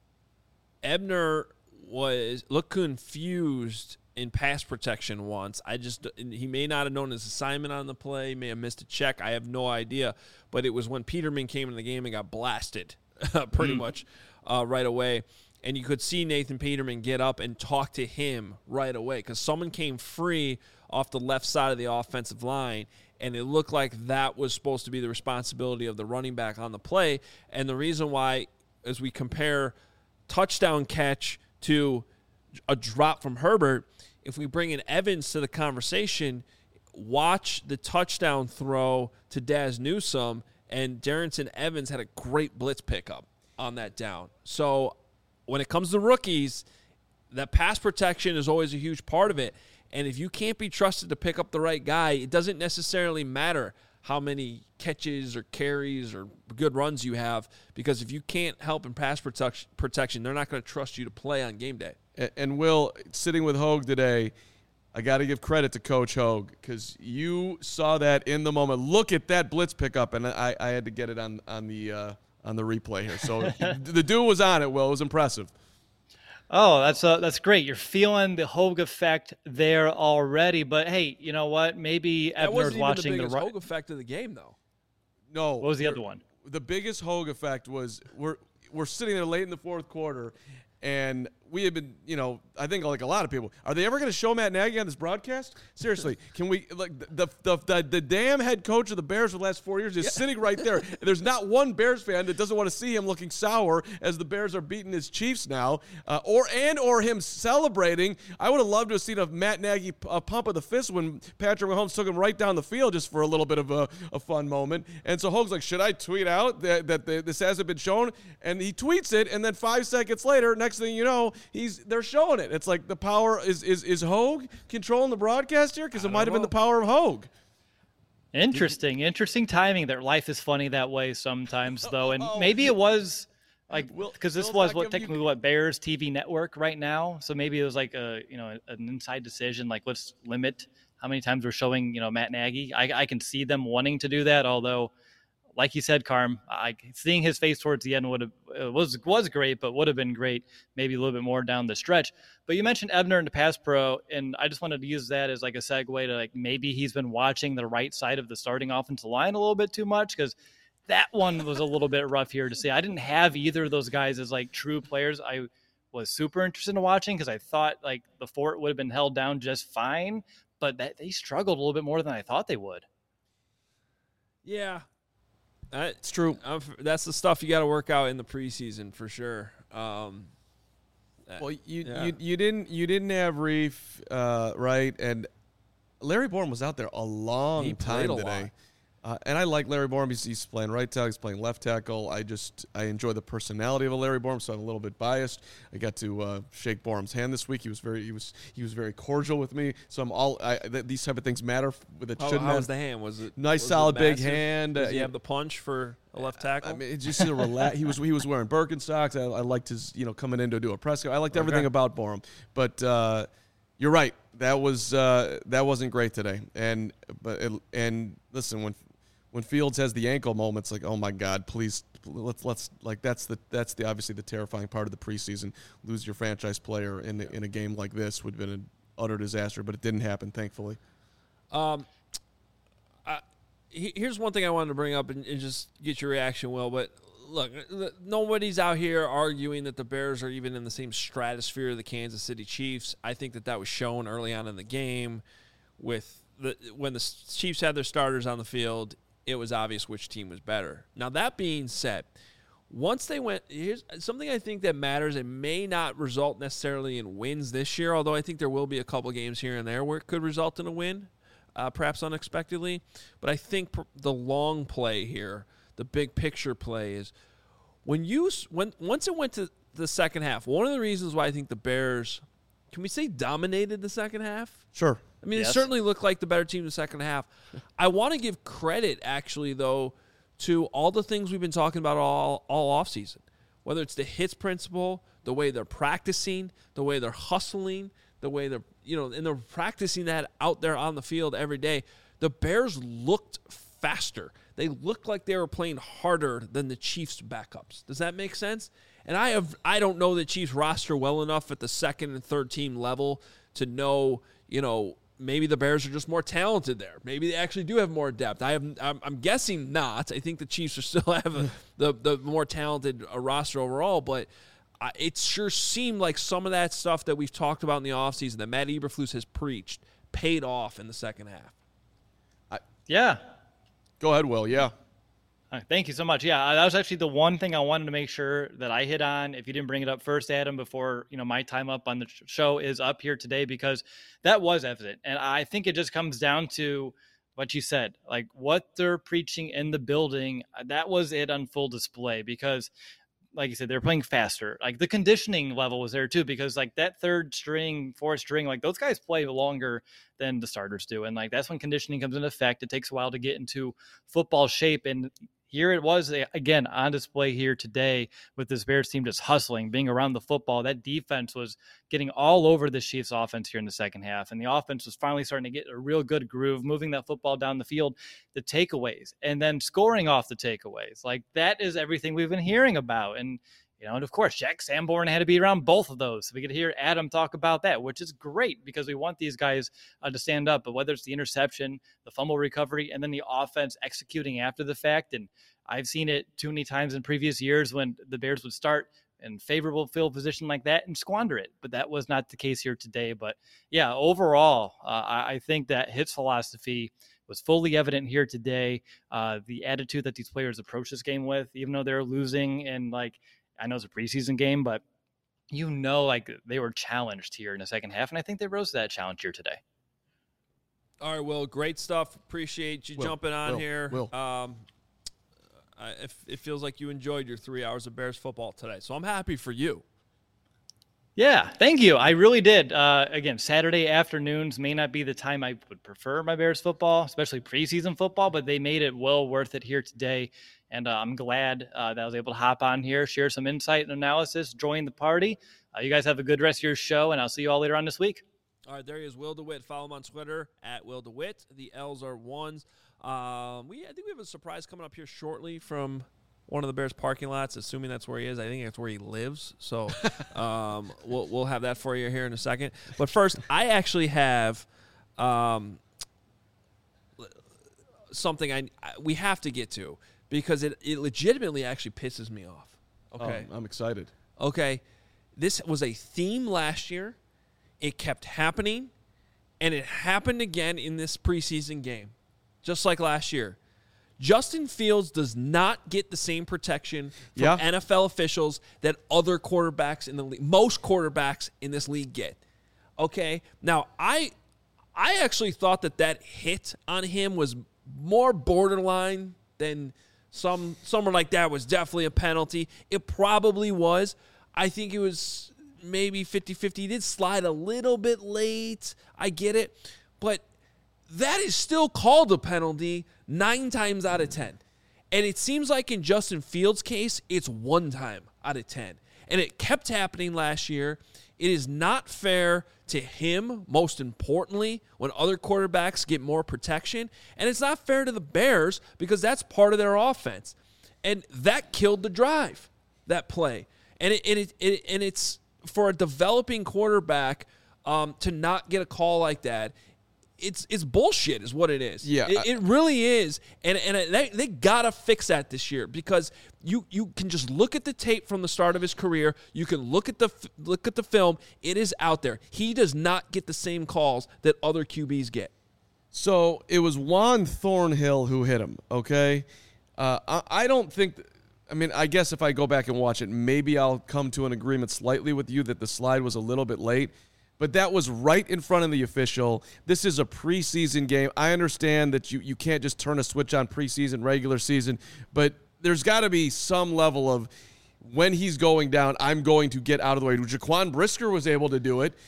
Ebner looked confused in pass protection once. He may not have known his assignment on the play, he may have missed a check. I have no idea. But it was when Peterman came in the game and got blasted pretty much right away. And you could see Nathan Peterman get up and talk to him right away because someone came free off the left side of the offensive line, and it looked like that was supposed to be the responsibility of the running back on the play. And the reason why, as we compare touchdown catch to a drop from Herbert, if we bring in Evans to the conversation, watch the touchdown throw to Daz Newsome, and Darrynton Evans had a great blitz pickup on that down. So when it comes to rookies, that pass protection is always a huge part of it. And if you can't be trusted to pick up the right guy, it doesn't necessarily matter how many catches or carries or good runs you have, because if you can't help in pass protection, they're not going to trust you to play on game day. And Will, sitting with Hogue today, I got to give credit to Coach Hogue because you saw that in the moment. Look at that blitz pickup, and I had to get it on the replay here. So the dude was on it, Will. It was impressive. Oh, that's great. You're feeling the Hogue effect there already. But hey, you know what? Maybe Ebner's watching the Hogue effect of the game, though. No. What was the other one? The biggest Hogue effect was we're sitting there late in the fourth quarter, and we had been, I think like a lot of people, are they ever going to show Matt Nagy on this broadcast? Seriously, can we, like, the damn head coach of the Bears for the last 4 years is sitting right there. There's not one Bears fan that doesn't want to see him looking sour as the Bears are beating his Chiefs now, or him celebrating. I would have loved to have seen a Matt Nagy pump of the fist when Patrick Mahomes took him right down the field just for a little bit of a fun moment. And so Hogue's like, should I tweet out that this hasn't been shown? And he tweets it, and then 5 seconds later, next thing you know, they're showing it. It's like the power is Hogue controlling the broadcast here? Because it might have been the power of Hogue. Interesting timing. That life is funny that way sometimes, though, and maybe it was like because this was technically Bears TV network right now, so maybe it was like an inside decision. Like let's limit how many times we're showing Matt Nagy. I can see them wanting to do that, although, like you said, Carm, seeing his face towards the end was great, but would have been great maybe a little bit more down the stretch. But you mentioned Ebner in the pass pro, and I just wanted to use that as like a segue to like maybe he's been watching the right side of the starting offensive line a little bit too much, because that one was a little bit rough here to see. I didn't have either of those guys as like true players. I was super interested in watching because I thought like the fort would have been held down just fine, but they struggled a little bit more than I thought they would. Yeah. It's true. That's the stuff you got to work out in the preseason for sure. Well, you didn't have Reef, right? And Larry Borom was out there a long time today. And I like Larry Borom. He's playing right tackle. He's playing left tackle. I enjoy the personality of a Larry Borom, so I'm a little bit biased. I got to shake Borom's hand this week. He was very cordial with me. So these type of things matter. How was the hand? Was it nice, solid, big hand? Does he have the punch for a left tackle? I mean, it's just a relax. He was wearing Birkenstocks. I liked his coming in to do a press. I liked everything about Borom, but you're right. That wasn't great today. And listen, when Fields has the ankle moment, it's like, oh my God, please, let's like that's the obviously the terrifying part of the preseason. Lose your franchise player in a game like this would have been an utter disaster, but it didn't happen, thankfully. Here's one thing I wanted to bring up and just get your reaction, Will. But look, nobody's out here arguing that the Bears are even in the same stratosphere of the Kansas City Chiefs. I think that was shown early on in the game with when the Chiefs had their starters on the field. It was obvious which team was better. Now, that being said, once they went, here's something I think that matters. It may not result necessarily in wins this year, although I think there will be a couple games here and there where it could result in a win, perhaps unexpectedly. But I think the long play here, the big picture play is once it went to the second half, one of the reasons why I think the Bears, can we say dominated the second half? Sure. I mean, It certainly looked like the better team in the second half. I want to give credit, actually, though, to all the things we've been talking about all offseason, whether it's the hits principle, the way they're practicing, the way they're hustling, the way they're, and they're practicing that out there on the field every day. The Bears looked faster. They looked like they were playing harder than the Chiefs' backups. Does that make sense? And I don't know the Chiefs roster well enough at the second and third team level to know, maybe the Bears are just more talented there. Maybe they actually do have more depth. I'm guessing not. I think the Chiefs are still have the more talented roster overall, but it sure seemed like some of that stuff that we've talked about in the offseason that Matt Eberflus has preached paid off in the second half. Yeah. Go ahead, Will. Yeah. Thank you so much. Yeah, that was actually the one thing I wanted to make sure that I hit on. If you didn't bring it up first, Adam, before my time up on the show is up here today, because that was evident. And I think it just comes down to what you said, like what they're preaching in the building. That was it on full display, because like you said, they're playing faster. Like the conditioning level was there too, because like that third string, fourth string, like those guys play longer than the starters do. And like, that's when conditioning comes into effect. It takes a while to get into football shape. And here it was, again, on display here today with this Bears team just hustling, being around the football. That defense was getting all over the Chiefs offense here in the second half. And the offense was finally starting to get a real good groove, moving that football down the field, the takeaways, and then scoring off the takeaways. Like that is everything we've been hearing about. And, and of course, Jack Sanborn had to be around both of those. So we could hear Adam talk about that, which is great because we want these guys to stand up. But whether it's the interception, the fumble recovery, and then the offense executing after the fact. And I've seen it too many times in previous years when the Bears would start in favorable field position like that and squander it. But that was not the case here today. But yeah, overall, I think that his philosophy was fully evident here today. The attitude that these players approach this game with, even though they're losing, and like, I know it's a preseason game, but like they were challenged here in the second half. And I think they rose to that challenge here today. All right, Will, great stuff. Appreciate you jumping on here. It feels like you enjoyed your 3 hours of Bears football today, so I'm happy for you. Yeah, thank you. I really did. Again, Saturday afternoons may not be the time I would prefer my Bears football, especially preseason football, but they made it well worth it here today. And I'm glad that I was able to hop on here, share some insight and analysis, join the party. You guys have a good rest of your show, and I'll see you all later on this week. All right, there he is, Will DeWitt. Follow him on Twitter at Will DeWitt. The L's are ones. I think we have a surprise coming up here shortly from one of the Bears parking lots, assuming that's where he is. I think that's where he lives. So we'll have that for you here in a second. But first, I actually have something we have to get to because it legitimately actually pisses me off. Okay, I'm excited. Okay, this was a theme last year. It kept happening, and it happened again in this preseason game, just like last year. Justin Fields does not get the same protection from NFL officials that other quarterbacks in the league, most quarterbacks in this league get. Okay? Now, I actually thought that hit on him was more borderline than someone like that was definitely a penalty. It probably was. I think it was maybe 50-50. He did slide a little bit late. I get it. But that is still called a penalty 9 times out of 10. And it seems like in Justin Fields' case, it's 1 time out of 10. And it kept happening last year. It is not fair to him, most importantly, when other quarterbacks get more protection. And it's not fair to the Bears because that's part of their offense. And that killed the drive, that play. And it's for a developing quarterback to not get a call like that. It's bullshit is what it is. Yeah. It really is. And they got to fix that this year because you can just look at the tape from the start of his career. You can look at the film. It is out there. He does not get the same calls that other QBs get. So it was Juan Thornhill who hit him, okay? I don't think I guess if I go back and watch it, maybe I'll come to an agreement slightly with you that the slide was a little bit late. But that was right in front of the official. This is a preseason game. I understand that you can't just turn a switch on preseason, regular season, but there's got to be some level of when he's going down, I'm going to get out of the way. Jaquan Brisker was able to do it.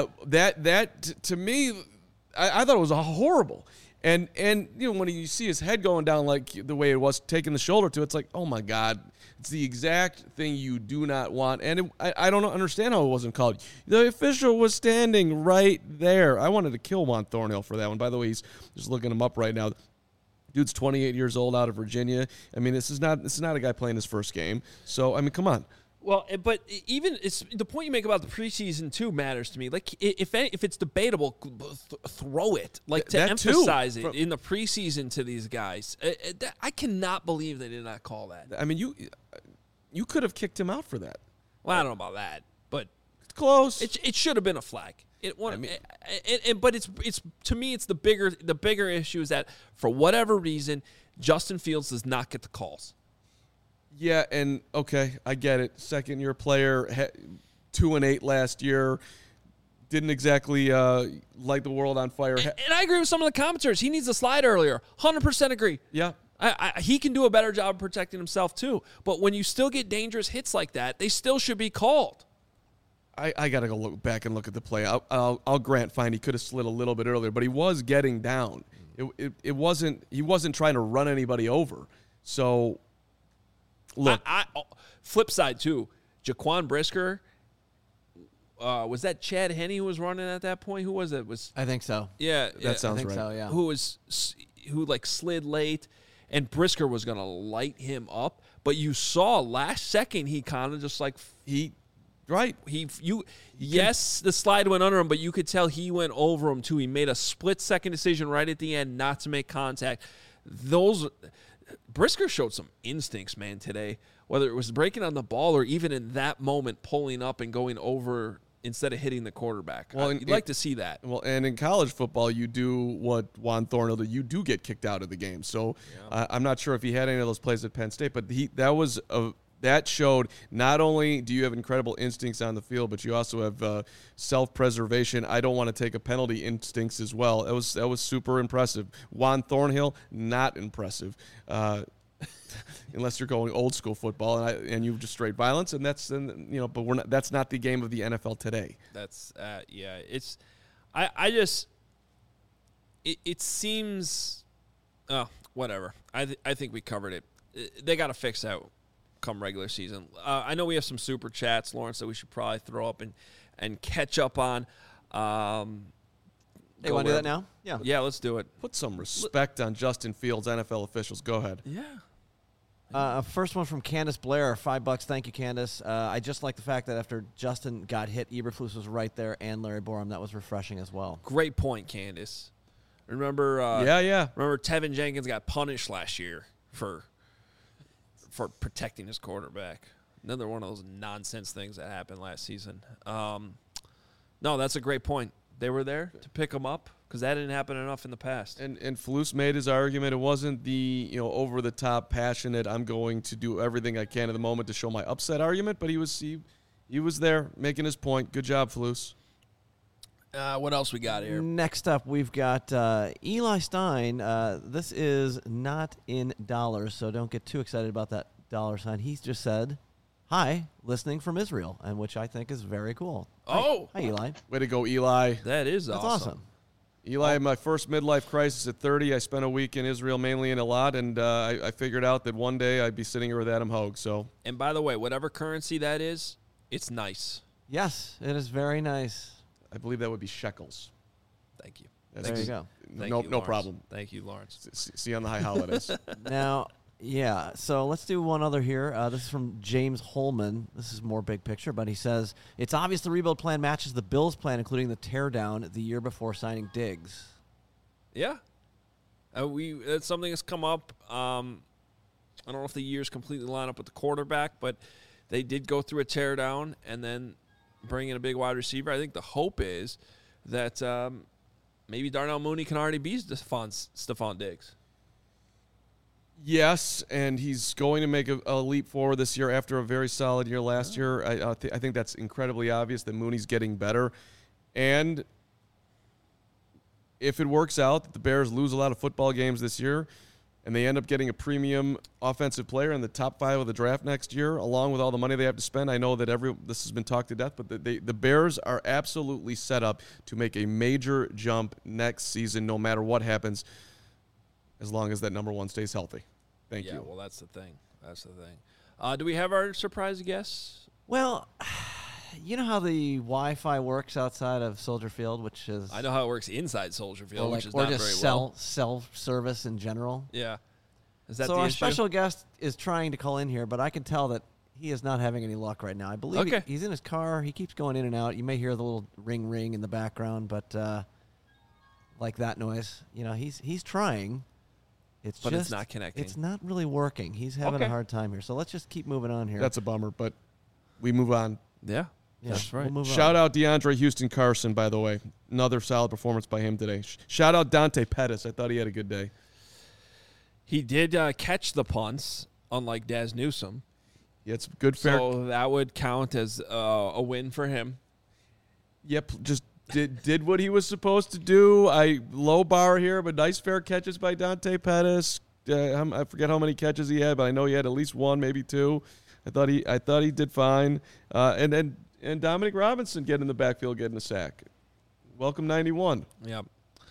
To me, I thought it was horrible. And when you see his head going down like the way it was, taking the shoulder to, it's like, oh my God, it's the exact thing you do not want. And I don't understand how it wasn't called. The official was standing right there. I wanted to kill Juan Thornhill for that one. By the way, he's just looking him up right now. Dude's 28 years old out of Virginia. This is not a guy playing his first game. So come on. Well, but even it's the point you make about the preseason too matters to me. Like if it's debatable, throw it. Like to emphasize it in the preseason to these guys. I cannot believe they did not call that. You could have kicked him out for that. Well, I don't know about that, but it's close. It should have been a flag. But it's to me it's the bigger issue is that for whatever reason Justin Fields does not get the calls. Yeah, and okay, I get it. Second-year player, 2-8 last year, didn't exactly light the world on fire. And I agree with some of the commenters. He needs a slide earlier. 100% agree. Yeah. He can do a better job of protecting himself too. But when you still get dangerous hits like that, they still should be called. I got to go look back and look at the play. I'll grant fine. He could have slid a little bit earlier, but he was getting down. It wasn't. He wasn't trying to run anybody over. So. Look, flip side too. Jaquan Brisker, was that Chad Henne who was running at that point? Who was it? I think so. Yeah, that sounds right. So, yeah. Who slid late, and Brisker was gonna light him up, but you saw last second he kind of just like yes, the slide went under him, but you could tell he went over him too. He made a split-second decision right at the end not to make contact. Brisker showed some instincts, man, today. Whether it was breaking on the ball or even in that moment pulling up and going over instead of hitting the quarterback. Well, you'd like to see that. Well, and in college football, you do what Juan Thornhill did. You do get kicked out of the game. So I'm not sure if he had any of those plays at Penn State, but that showed not only do you have incredible instincts on the field, but you also have self-preservation. I don't want to take a penalty instincts as well. That was super impressive. Juan Thornhill, not impressive. unless you're going old school football and you just straight violence, and but that's not the game of the NFL today. That's it's I just it seems whatever. I think we covered it. They got to fix that come regular season. I know we have some super chats, Lawrence, that we should probably throw up and catch up on. Hey, want to do that now? Yeah, let's do it. Put some respect on Justin Fields' NFL officials. Go ahead. Yeah. First one from Candace Blair, $5. Thank you, Candace. I just like the fact that after Justin got hit, Eberflus was right there and Larry Borom. That was refreshing as well. Great point, Candace. Remember? Remember Tevin Jenkins got punished last year for protecting his quarterback. Another one of those nonsense things that happened last season. No, that's a great point. They were there to pick him up because that didn't happen enough in the past. And Flus made his argument. It wasn't the over the top, passionate, I'm going to do everything I can at the moment to show my upset argument. But he was there making his point. Good job, Flus. What else we got here? Next up, we've got Eli Stein. This is not in dollars, so don't get too excited about that dollar sign. He's just said, "Hi, listening from Israel," and which I think is very cool. Oh, hi Eli. Way to go, Eli. That's awesome. Eli, my first midlife crisis at 30. I spent a week in Israel, mainly in Eilat, and I figured out that one day I'd be sitting here with Adam Hogue. So, and by the way, whatever currency that is, it's nice. Yes, it is very nice. I believe that would be shekels. Thank you. There you go. No problem. Thank you, Lawrence. See you on the high holidays. Now, yeah, so let's do one other here. This is from James Holman. This is more big picture, but he says, it's obvious the rebuild plan matches the Bills' plan, including the teardown the year before signing Diggs. Yeah. It's something that's come up. I don't know if the years completely line up with the quarterback, but they did go through a teardown and then bring in a big wide receiver. I think the hope is that maybe Darnell Mooney can already be Stephon Diggs. Yes, and he's going to make a leap forward this year after a very solid year last year. I think that's incredibly obvious that Mooney's getting better. And if it works out that the Bears lose a lot of football games this year and they end up getting a premium offensive player in the top 5 of the draft next year, along with all the money they have to spend, I know that this has been talked to death, but the Bears are absolutely set up to make a major jump next season no matter what happens, as long as that number one stays healthy. Thank you. Yeah, well, that's the thing. Do we have our surprise guests? Well, you know how the Wi-Fi works outside of Soldier Field, which is... I know how it works inside Soldier Field, which is not very well. Or just self-service in general. Yeah. Is that so the our issue? Special guest is trying to call in here, but I can tell that he is not having any luck right now. I believe he's in his car. He keeps going in and out. You may hear the little ring in the background, but like that noise. He's trying. It's not connecting. It's not really working. He's having a hard time here. So let's just keep moving on here. That's a bummer, but we move on. Yeah, that's right. We'll Shout out DeAndre Houston Carson, by the way. Another solid performance by him today. Shout out Dante Pettis. I thought he had a good day. He did catch the punts, unlike Daz Newsome. Yeah, it's good fair. So that would count as a win for him. Yep, just did what he was supposed to do. Low bar here, but nice fair catches by Dante Pettis. I forget how many catches he had, but I know he had at least one, maybe two. I thought he did fine. And Dominic Robinson getting in the backfield, getting a sack. Welcome 91. Yep.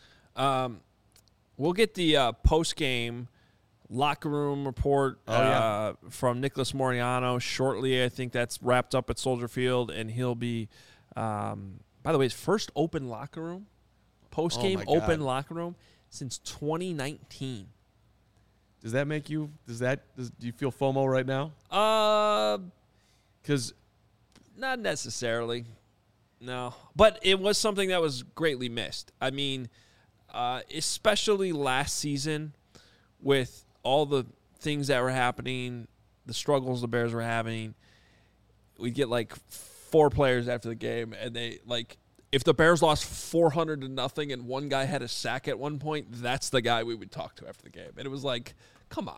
We'll get the post-game locker room report from Nicholas Moreano shortly. I think that's wrapped up at Soldier Field, and he'll be by the way, his first open locker room, post-game open locker room since 2019. Does that make you? Do you feel FOMO right now? Because not necessarily. No, but it was something that was greatly missed. I mean, especially last season with all the things that were happening, the struggles the Bears were having. We'd get like 4 players after the game, and they if the Bears lost 400-0 and one guy had a sack at one point, that's the guy we would talk to after the game. And it was like, come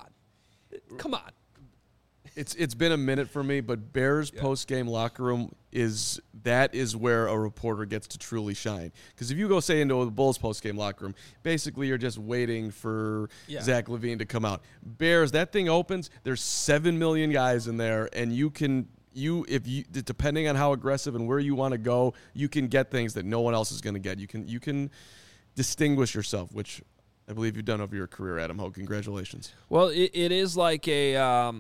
on. It's been a minute for me, but Bears post-game locker room is that is where a reporter gets to truly shine. Because if you go, say, into the Bulls postgame locker room, basically you're just waiting for Zach LaVine to come out. Bears, that thing opens, there's 7 million guys in there, and if you depending on how aggressive and where you want to go, you can get things that no one else is going to get. You can distinguish yourself, which I believe you've done over your career, Adam Hogue. Congratulations. Well, it is like a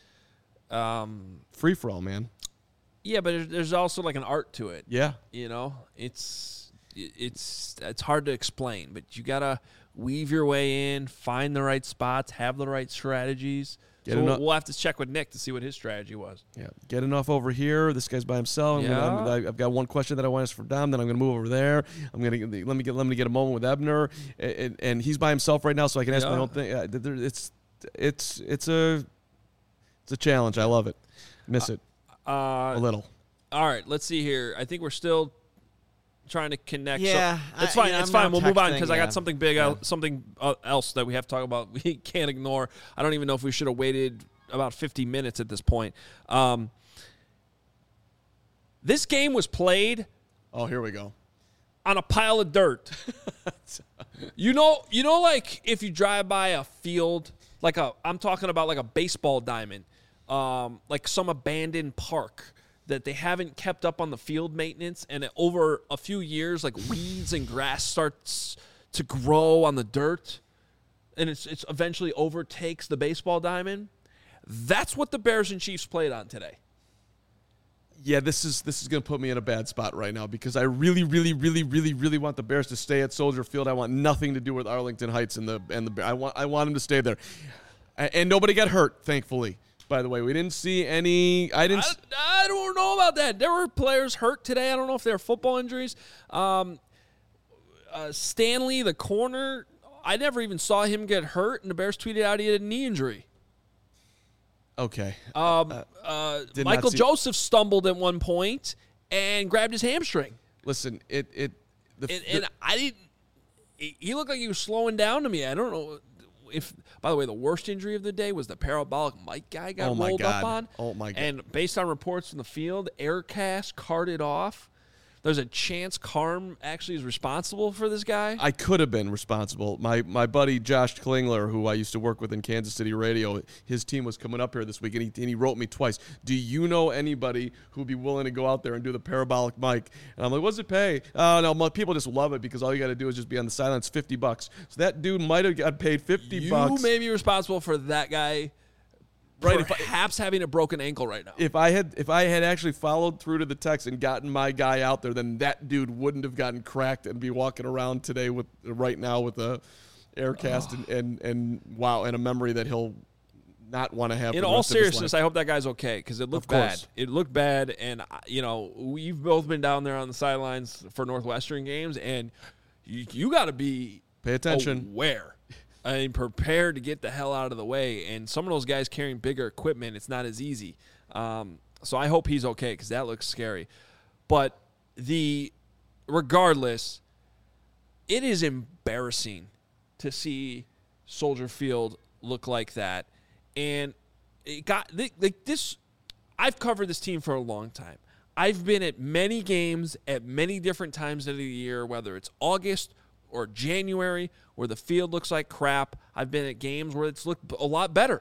free for all, man. Yeah, but there's also like an art to it. Yeah, it's hard to explain, but you gotta weave your way in, find the right spots, have the right strategies. We'll have to check with Nick to see what his strategy was. Yeah, get enough over here. This guy's by himself. I've got one question that I want to ask for Dom. Then I'm going to move over there. Let me get a moment with Ebner, and he's by himself right now, so I can ask my own thing. It's a challenge. I love it. Miss it a little. All right, let's see here. I think we're still trying to connect. Yeah, it's fine. It's fine. We'll move on because I got something big, something else that we have to talk about. We can't ignore. I don't even know if we should have waited about 50 minutes at this point. This game was played. Oh, here we go. On a pile of dirt. Like if you drive by a field, I'm talking about like a baseball diamond, like some abandoned park that they haven't kept up on the field maintenance, and over a few years, like weeds and grass starts to grow on the dirt, and it's eventually overtakes the baseball diamond. That's what the Bears and Chiefs played on today. Yeah, this is going to put me in a bad spot right now because I really, really, really, really, really want the Bears to stay at Soldier Field. I want nothing to do with Arlington Heights and the I want them to stay there, and nobody got hurt, thankfully. By the way, we didn't see any. I don't know about that. There were players hurt today. I don't know if they're football injuries. Stanley, the corner, I never even saw him get hurt, and the Bears tweeted out he had a knee injury. Okay. Michael Joseph stumbled at one point and grabbed his hamstring. Listen, I didn't. He looked like he was slowing down to me. I don't know. By the way, the worst injury of the day was the parabolic mic guy got rolled up on. Oh, my God. And based on reports from the field, Aircast carted off. There's a chance Carm actually is responsible for this guy. I could have been responsible. My buddy Josh Klingler, who I used to work with in Kansas City radio, his team was coming up here this week, and he wrote me twice. Do you know anybody who would be willing to go out there and do the parabolic mic? And I'm like, what's it pay? Oh, no, people just love it because all you got to do is just be on the sideline. It's $50. So that dude might have got paid $50. You may be responsible for that guy. Right, perhaps having a broken ankle right now. If I had actually followed through to the text and gotten my guy out there, then that dude wouldn't have gotten cracked and be walking around today right now with a Aircast and a memory that he'll not want to have. In all seriousness, I hope that guy's okay because it looked bad. It looked bad, and we've both been down there on the sidelines for Northwestern games, and you got to be pay attention aware. Prepared to get the hell out of the way. And some of those guys carrying bigger equipment, it's not as easy. So I hope he's okay because that looks scary. But regardless, it is embarrassing to see Soldier Field look like that. And it got like this. I've covered this team for a long time. I've been at many games at many different times of the year, whether it's August or January, where the field looks like crap. I've been at games where it's looked a lot better.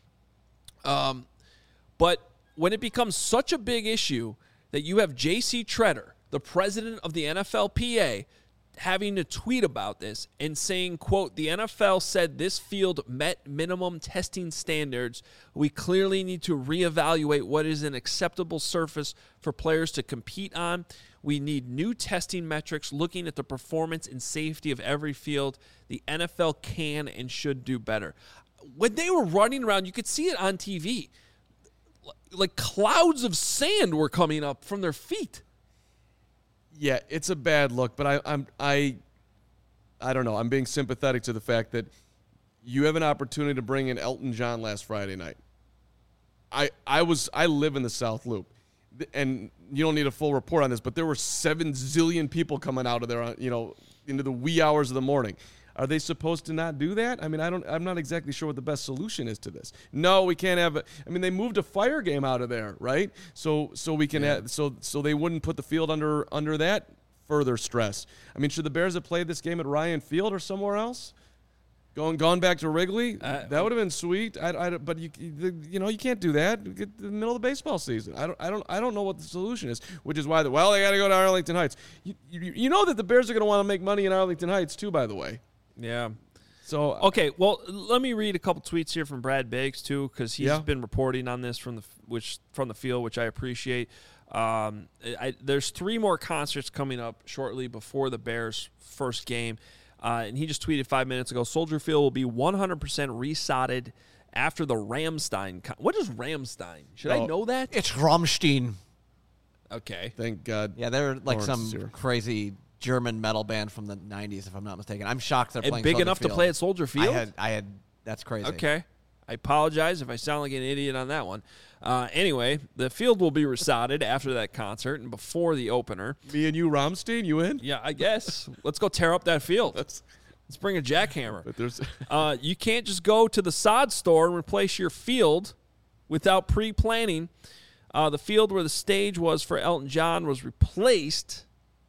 But when it becomes such a big issue that you have J.C. Tretter, the president of the NFLPA, having to tweet about this and saying, quote, the NFL said this field met minimum testing standards. We clearly need to reevaluate what is an acceptable surface for players to compete on. We need new testing metrics looking at the performance and safety of every field. The NFL can and should do better. When they were running around, you could see it on TV. Like clouds of sand were coming up from their feet. Yeah, it's a bad look, but I don't know. I'm being sympathetic to the fact that you have an opportunity to bring in Elton John last Friday night. I live in the South Loop, and you don't need a full report on this, but there were 7 zillion people coming out of there, into the wee hours of the morning. Are they supposed to not do that? I mean, I'm not exactly sure what the best solution is to this. No, we can't have I mean, they moved a fire game out of there, right? So we can have, so they wouldn't put the field under that further stress. I mean, should the Bears have played this game at Ryan Field or somewhere else? Gone back to Wrigley, that would have been sweet. But you can't do that. Get in the middle of the baseball season. I don't know what the solution is. Which is why they got to go to Arlington Heights. You know that the Bears are going to want to make money in Arlington Heights too. By the way. Yeah. So okay, well, let me read a couple tweets here from Brad Biggs too, because he's been reporting on this from the field, which I appreciate. There's 3 more concerts coming up shortly before the Bears' first game. And he just tweeted 5 minutes ago, Soldier Field will be 100% resodded after the Rammstein. What is Rammstein? Should I know that? It's Rammstein. Okay. Thank God. Yeah, they're like some crazy German metal band from the 90s, if I'm not mistaken. I'm shocked they're playing big Soldier enough Field. to play at Soldier Field? I had. That's crazy. Okay. I apologize if I sound like an idiot on that one. Anyway, the field will be resodded after that concert and before the opener. Me and you, Rammstein, you in? Yeah, I guess. Let's go tear up that field. Let's bring a jackhammer. But you can't just go to the sod store and replace your field without pre-planning. The field where the stage was for Elton John was replaced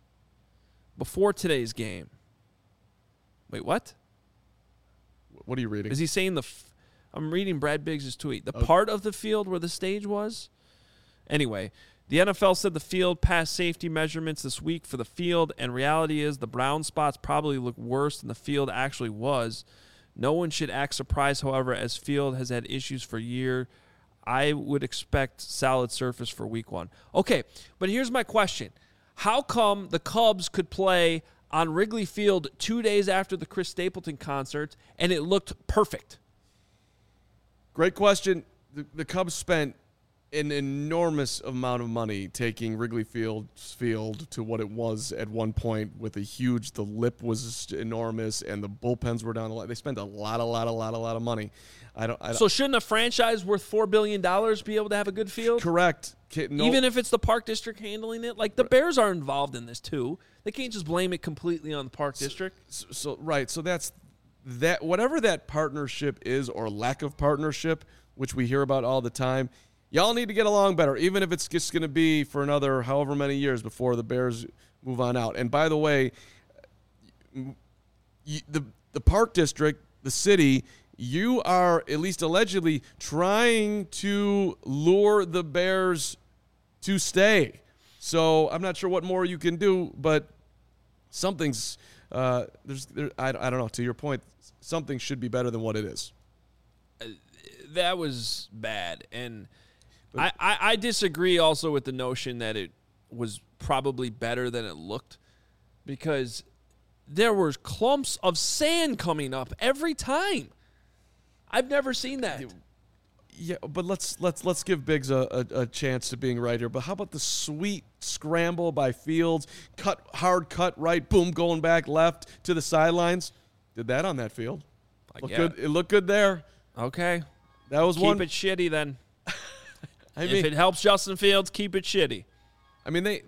before today's game. Wait, what? What are you reading? Is he saying I'm reading Brad Biggs' tweet. The part of the field where the stage was? Anyway, the NFL said the field passed safety measurements this week for the field, and reality is the brown spots probably look worse than the field actually was. No one should act surprised, however, as field has had issues for years. I would expect solid surface for week 1. Okay, but here's my question. How come the Cubs could play on Wrigley Field 2 days after the Chris Stapleton concert, and it looked perfect? Great question. The Cubs spent an enormous amount of money taking Wrigley Field's field to what it was at one point with the lip was enormous and the bullpens were down a lot. They spent a lot of money. So shouldn't a franchise worth $4 billion be able to have a good field? Correct. Even if it's the Park District handling it? Like, the Bears are involved in this, too. They can't just blame it completely on the Park District. So that's that. Whatever that partnership is or lack of partnership, which we hear about all the time, y'all need to get along better, even if it's just going to be for another however many years before the Bears move on out. And by the way, the Park District, the city, you are at least allegedly trying to lure the Bears to stay. So I'm not sure what more you can do, but something's I don't know. To your point, something should be better than what it is. That was bad, and I disagree also with the notion that it was probably better than it looked, because there were clumps of sand coming up every time. I've never seen that. Yeah, but let's give Biggs a chance to being right here. But how about the sweet scramble by Fields, hard cut right, boom, going back left to the sidelines? Did that on that field. Good. It looked good there. Okay. That was one. Keep it shitty then. If it helps Justin Fields, keep it shitty. I mean,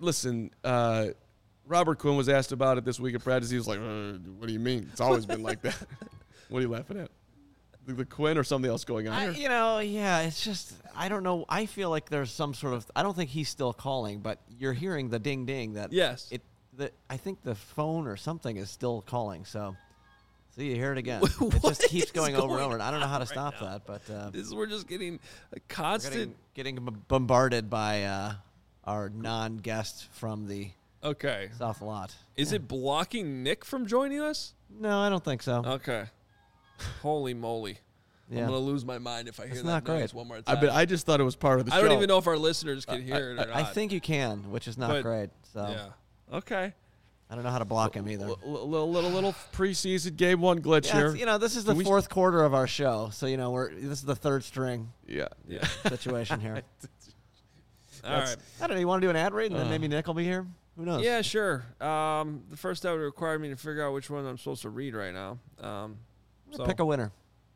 Robert Quinn was asked about it this week at practice. He was like, what do you mean? It's always been like that. What are you laughing at? The Quinn or something else going on here? It's just, I don't know. I feel like there's some sort of, I don't think he's still calling, but you're hearing the ding ding that yes. I think the phone or something is still calling. So you hear it again. It just keeps going over and over, and I don't know how to stop that. But we're just getting a constant getting bombarded by our non-guest from the South Lot. Is it blocking Nick from joining us? No, I don't think so. Okay. Holy moly. Yeah. I'm going to lose my mind if I hear that noise one more time. I just thought it was part of the show. I don't even know if our listeners can hear it or not. I think you can, which is not great. So. Yeah. Okay. I don't know how to block him either. Little preseason game one glitch here. This is the fourth quarter of our show, so this is the third string. Yeah. Situation here. All right. I don't know. You want to do an ad read, and then maybe Nick will be here? Who knows? Yeah, sure. The first that would require me to figure out which one I'm supposed to read right now. So pick a winner.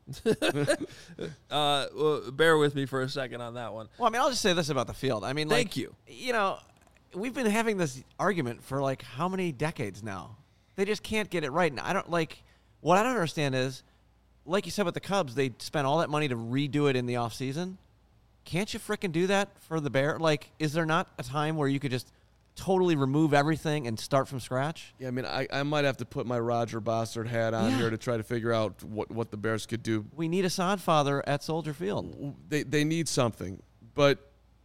Bear with me for a second on that one. Well, I mean, I'll just say this about the field. I mean, thank you. We've been having this argument for how many decades now? They just can't get it right. And I don't What I don't understand is, like you said with the Cubs, they spent all that money to redo it in the offseason. Can't you frickin' do that for the Bears? Like, is there not a time where you could just totally remove everything and start from scratch? Yeah, I mean, I might have to put my Roger Bossard hat on here to try to figure out what the Bears could do. We need a sod father at Soldier Field. They need something, but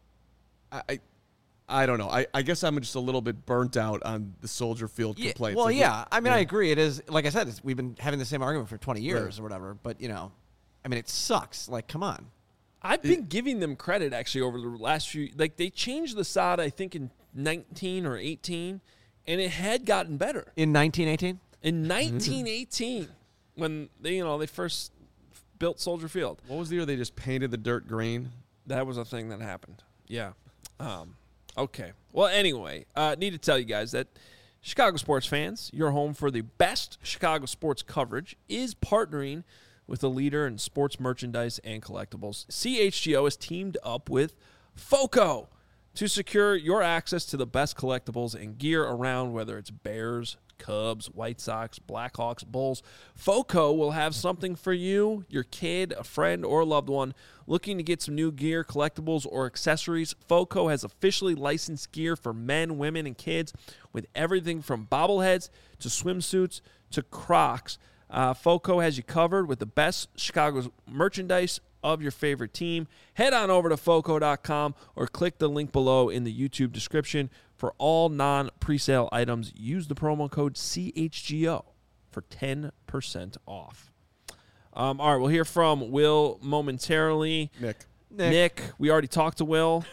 I don't know. I guess I'm just a little bit burnt out on the Soldier Field complaints. Well, yeah. I mean, I agree. It is, like I said, we've been having the same argument for 20 years or whatever. But, I mean, it sucks. Like, come on. I've been giving them credit, actually, over the last few. Like, they changed the sod, I think, in 19 or 18, and it had gotten better. In 1918? In 1918, when they first built Soldier Field. What was the year they just painted the dirt green? That was a thing that happened. Yeah. Okay. Well, anyway, need to tell you guys that Chicago sports fans, your home for the best Chicago sports coverage, is partnering with a leader in sports merchandise and collectibles. CHGO has teamed up with FOCO to secure your access to the best collectibles and gear around, whether it's Bears, Cubs, White Sox, Blackhawks, Bulls. FOCO will have something for you, your kid, a friend, or a loved one looking to get some new gear, collectibles, or accessories. FOCO has officially licensed gear for men, women, and kids with everything from bobbleheads to swimsuits to Crocs. FOCO has you covered with the best Chicago merchandise of your favorite team. Head on over to FOCO.com or click the link below in the YouTube description. For all non-presale items, use the promo code CHGO for 10% off. All right, we'll hear from Will momentarily. Nick, we already talked to Will.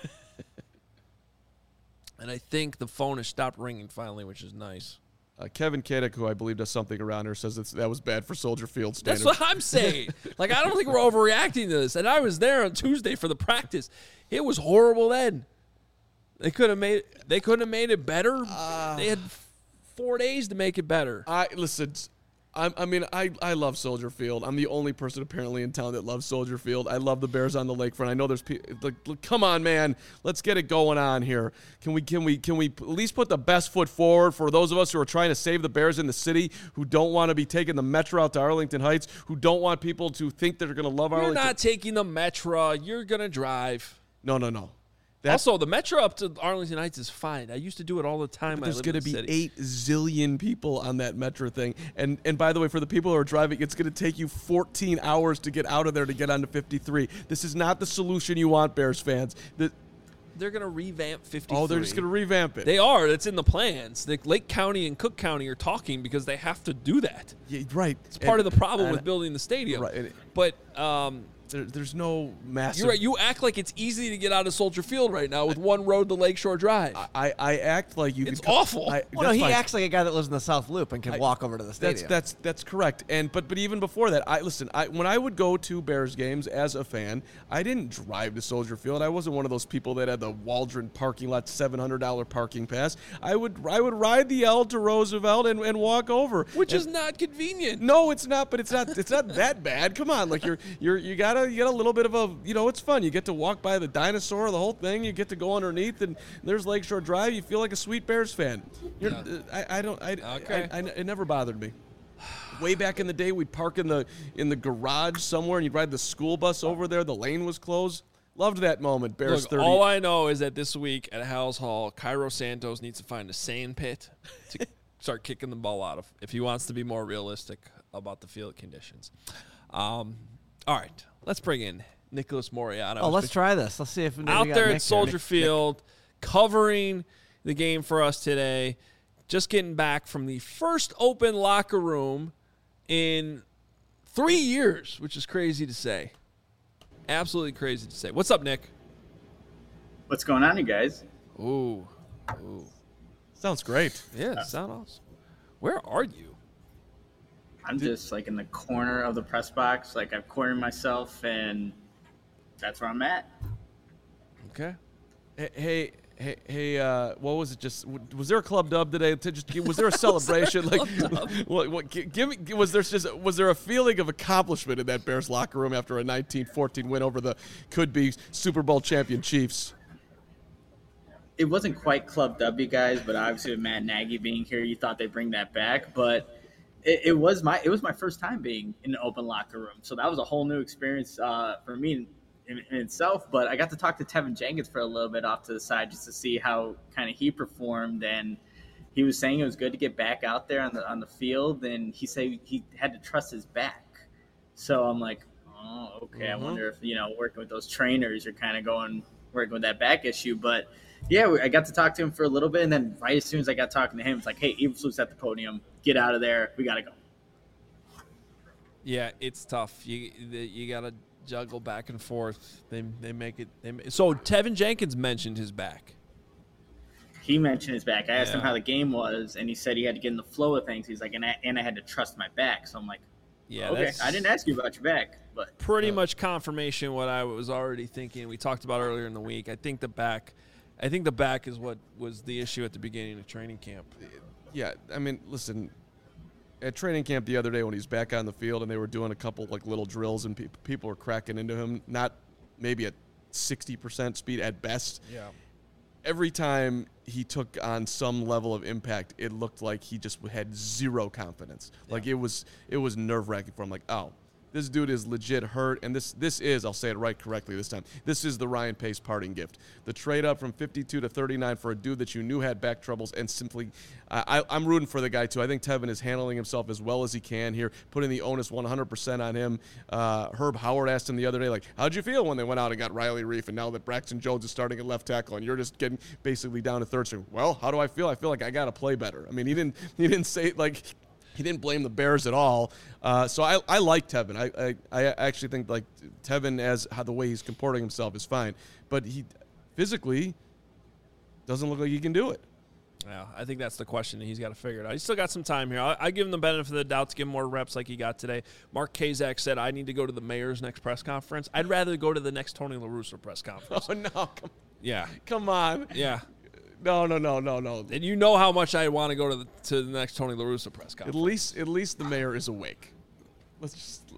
And I think the phone has stopped ringing finally, which is nice. Kevin Kadek, who I believe does something around here, says that was bad for Soldier Field standards. That's what I'm saying. Like, I don't think we're overreacting to this. And I was there on Tuesday for the practice. It was horrible then. They couldn't have made it better. They had 4 days to make it better. Listen, I love Soldier Field. I'm the only person apparently in town that loves Soldier Field. I love the Bears on the lakefront. I know there's people. Like, come on, man, let's get it going on here. Can we at least put the best foot forward for those of us who are trying to save the Bears in the city, who don't want to be taking the Metro out to Arlington Heights, who don't want people to think they're going to love Arlington? You're not taking the Metro. You're going to drive. No. Also, the Metro up to Arlington Heights is fine. I used to do it all the time. There's going to be 8 zillion people on that Metro thing. And by the way, for the people who are driving, it's going to take you 14 hours to get out of there to get onto 53. This is not the solution you want, Bears fans. They're going to revamp 53. Oh, they're just going to revamp it. They are. It's in the plans. Lake County and Cook County are talking because they have to do that. Yeah, right. It's part of the problem with building the stadium. Right. But there's no massive... You're right. You act like it's easy to get out of Soldier Field right now with one road to Lakeshore Drive. I act like you... It's awful. He acts like a guy that lives in the South Loop and can walk over to the stadium. That's correct. But even before that, when I would go to Bears games as a fan, I didn't drive to Soldier Field. I wasn't one of those people that had the Waldron parking lot $700 parking pass. I would ride the L to Roosevelt and walk over, which is not convenient. No, it's not. But it's not that bad. Come on, like you got a little bit of a, it's fun. You get to walk by the dinosaur, the whole thing. You get to go underneath, and there's Lakeshore Drive. You feel like a sweet Bears fan. It never bothered me. Way back in the day, we'd park in the garage somewhere, and you'd ride the school bus over there. The lane was closed. Loved that moment. Bears 30. All I know is that this week at Howells Hall, Cairo Santos needs to find a sand pit to start kicking the ball out of if he wants to be more realistic about the field conditions. All right, let's bring in Nicholas Moreano. Oh, let's try this. Let's see if out there at Soldier Field, covering the game for us today. Just getting back from the first open locker room in 3 years, which is crazy to say. Absolutely crazy to say. What's up, Nick? What's going on, you guys? Ooh. Sounds great. Yeah, sounds awesome. Where are you? I'm just like in the corner of the press box. Like I've cornered myself, and that's where I'm at. Okay. Hey, what was it? Was there a club dub today? Was there a celebration? Was there a feeling of accomplishment in that Bears locker room after a 19-14 win over the could-be Super Bowl champion Chiefs? It wasn't quite Club W, guys, but obviously with Matt Nagy being here, you thought they'd bring that back. But it was my first time being in an open locker room, so that was a whole new experience for me in itself. But I got to talk to Tevin Jenkins for a little bit off to the side just to see how kind of he performed, and he was saying it was good to get back out there on the field, and he said he had to trust his back. So I'm like, oh, okay. Mm-hmm. I wonder if working with those trainers, you're kind of working with that back issue, but. Yeah, I got to talk to him for a little bit, and then right as soon as I got talking to him, it's like, hey, Eberflus at the podium. Get out of there. We got to go. Yeah, it's tough. You got to juggle back and forth. They make it. So Tevin Jenkins mentioned his back. He mentioned his back. I asked him how the game was, and he said he had to get in the flow of things. He's like, and I had to trust my back. So I'm like, yeah, okay. I didn't ask you about your back, but pretty much confirmation what I was already thinking. We talked about earlier in the week. I think the back is what was the issue at the beginning of training camp. Yeah, I mean, listen, at training camp the other day when he's back on the field and they were doing a couple like little drills and people were cracking into him, not maybe at 60% speed at best. Yeah. Every time he took on some level of impact, it looked like he just had zero confidence. Yeah. Like it was nerve-wracking for him. Like, oh, this dude is legit hurt, and this is, I'll say it right correctly this time, this is the Ryan Pace parting gift. The trade up from 52 to 39 for a dude that you knew had back troubles, and simply, I'm rooting for the guy too. I think Tevin is handling himself as well as he can here, putting the onus 100% on him. Herb Howard asked him the other day, like, how'd you feel when they went out and got Riley Reiff, and now that Braxton Jones is starting at left tackle, and you're just getting basically down to third string? Well, how do I feel? I feel like I got to play better. I mean, he didn't say, like, he didn't blame the Bears at all. So I like Tevin. I actually think like Tevin how the way he's comporting himself is fine. But he physically doesn't look like he can do it. Yeah, I think that's the question. He's got to figure it out. He's still got some time here. I give him the benefit of the doubt to give him more reps like he got today. Mark Kazak said, I need to go to the mayor's next press conference. I'd rather go to the next Tony La Russa press conference. Oh, no. Come on. Yeah. No. And you know how much I want to go to the next Tony La Russa press conference. At least the mayor is awake. Let's just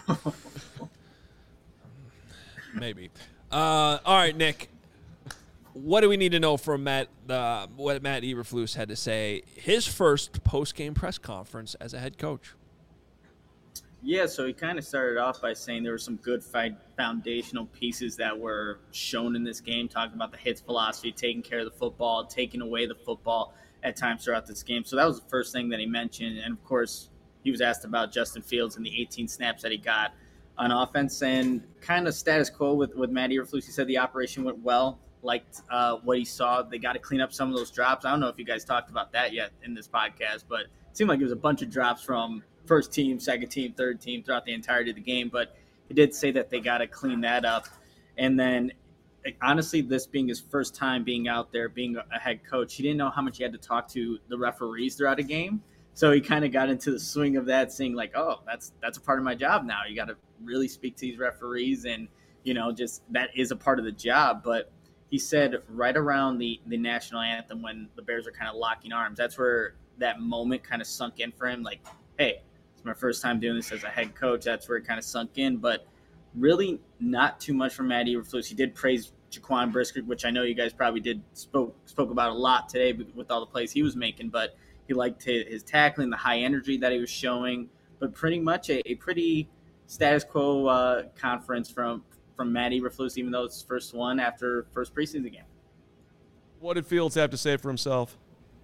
maybe. All right, Nick. What do we need to know from Matt? What Matt Eberflus had to say? His first post-game press conference as a head coach. Yeah, so he kind of started off by saying there were some good foundational pieces that were shown in this game, talking about the hits philosophy, taking care of the football, taking away the football at times throughout this game. So that was the first thing that he mentioned. And, of course, he was asked about Justin Fields and the 18 snaps that he got on offense. And kind of status quo with Matt Eberflus. He said the operation went well, liked what he saw. They got to clean up some of those drops. I don't know if you guys talked about that yet in this podcast, but it seemed like it was a bunch of drops from first team, second team, third team throughout the entirety of the game. But he did say that they got to clean that up. And then, honestly, this being his first time being out there, being a head coach, he didn't know how much he had to talk to the referees throughout a game. So he kind of got into the swing of that, saying like, oh, that's a part of my job now. You got to really speak to these referees, and, just that is a part of the job. But he said right around the national anthem when the Bears are kind of locking arms, that's where that moment kind of sunk in for him. Like, hey, it's my first time doing this as a head coach. That's where it kind of sunk in. But really not too much from Matt Eberflus. He did praise Jaquan Brisker, which I know you guys probably spoke about a lot today with all the plays he was making. But he liked his tackling, the high energy that he was showing. But pretty much a pretty status quo conference from Matt Eberflus, even though it's his first one after first preseason game. What did Fields have to say for himself?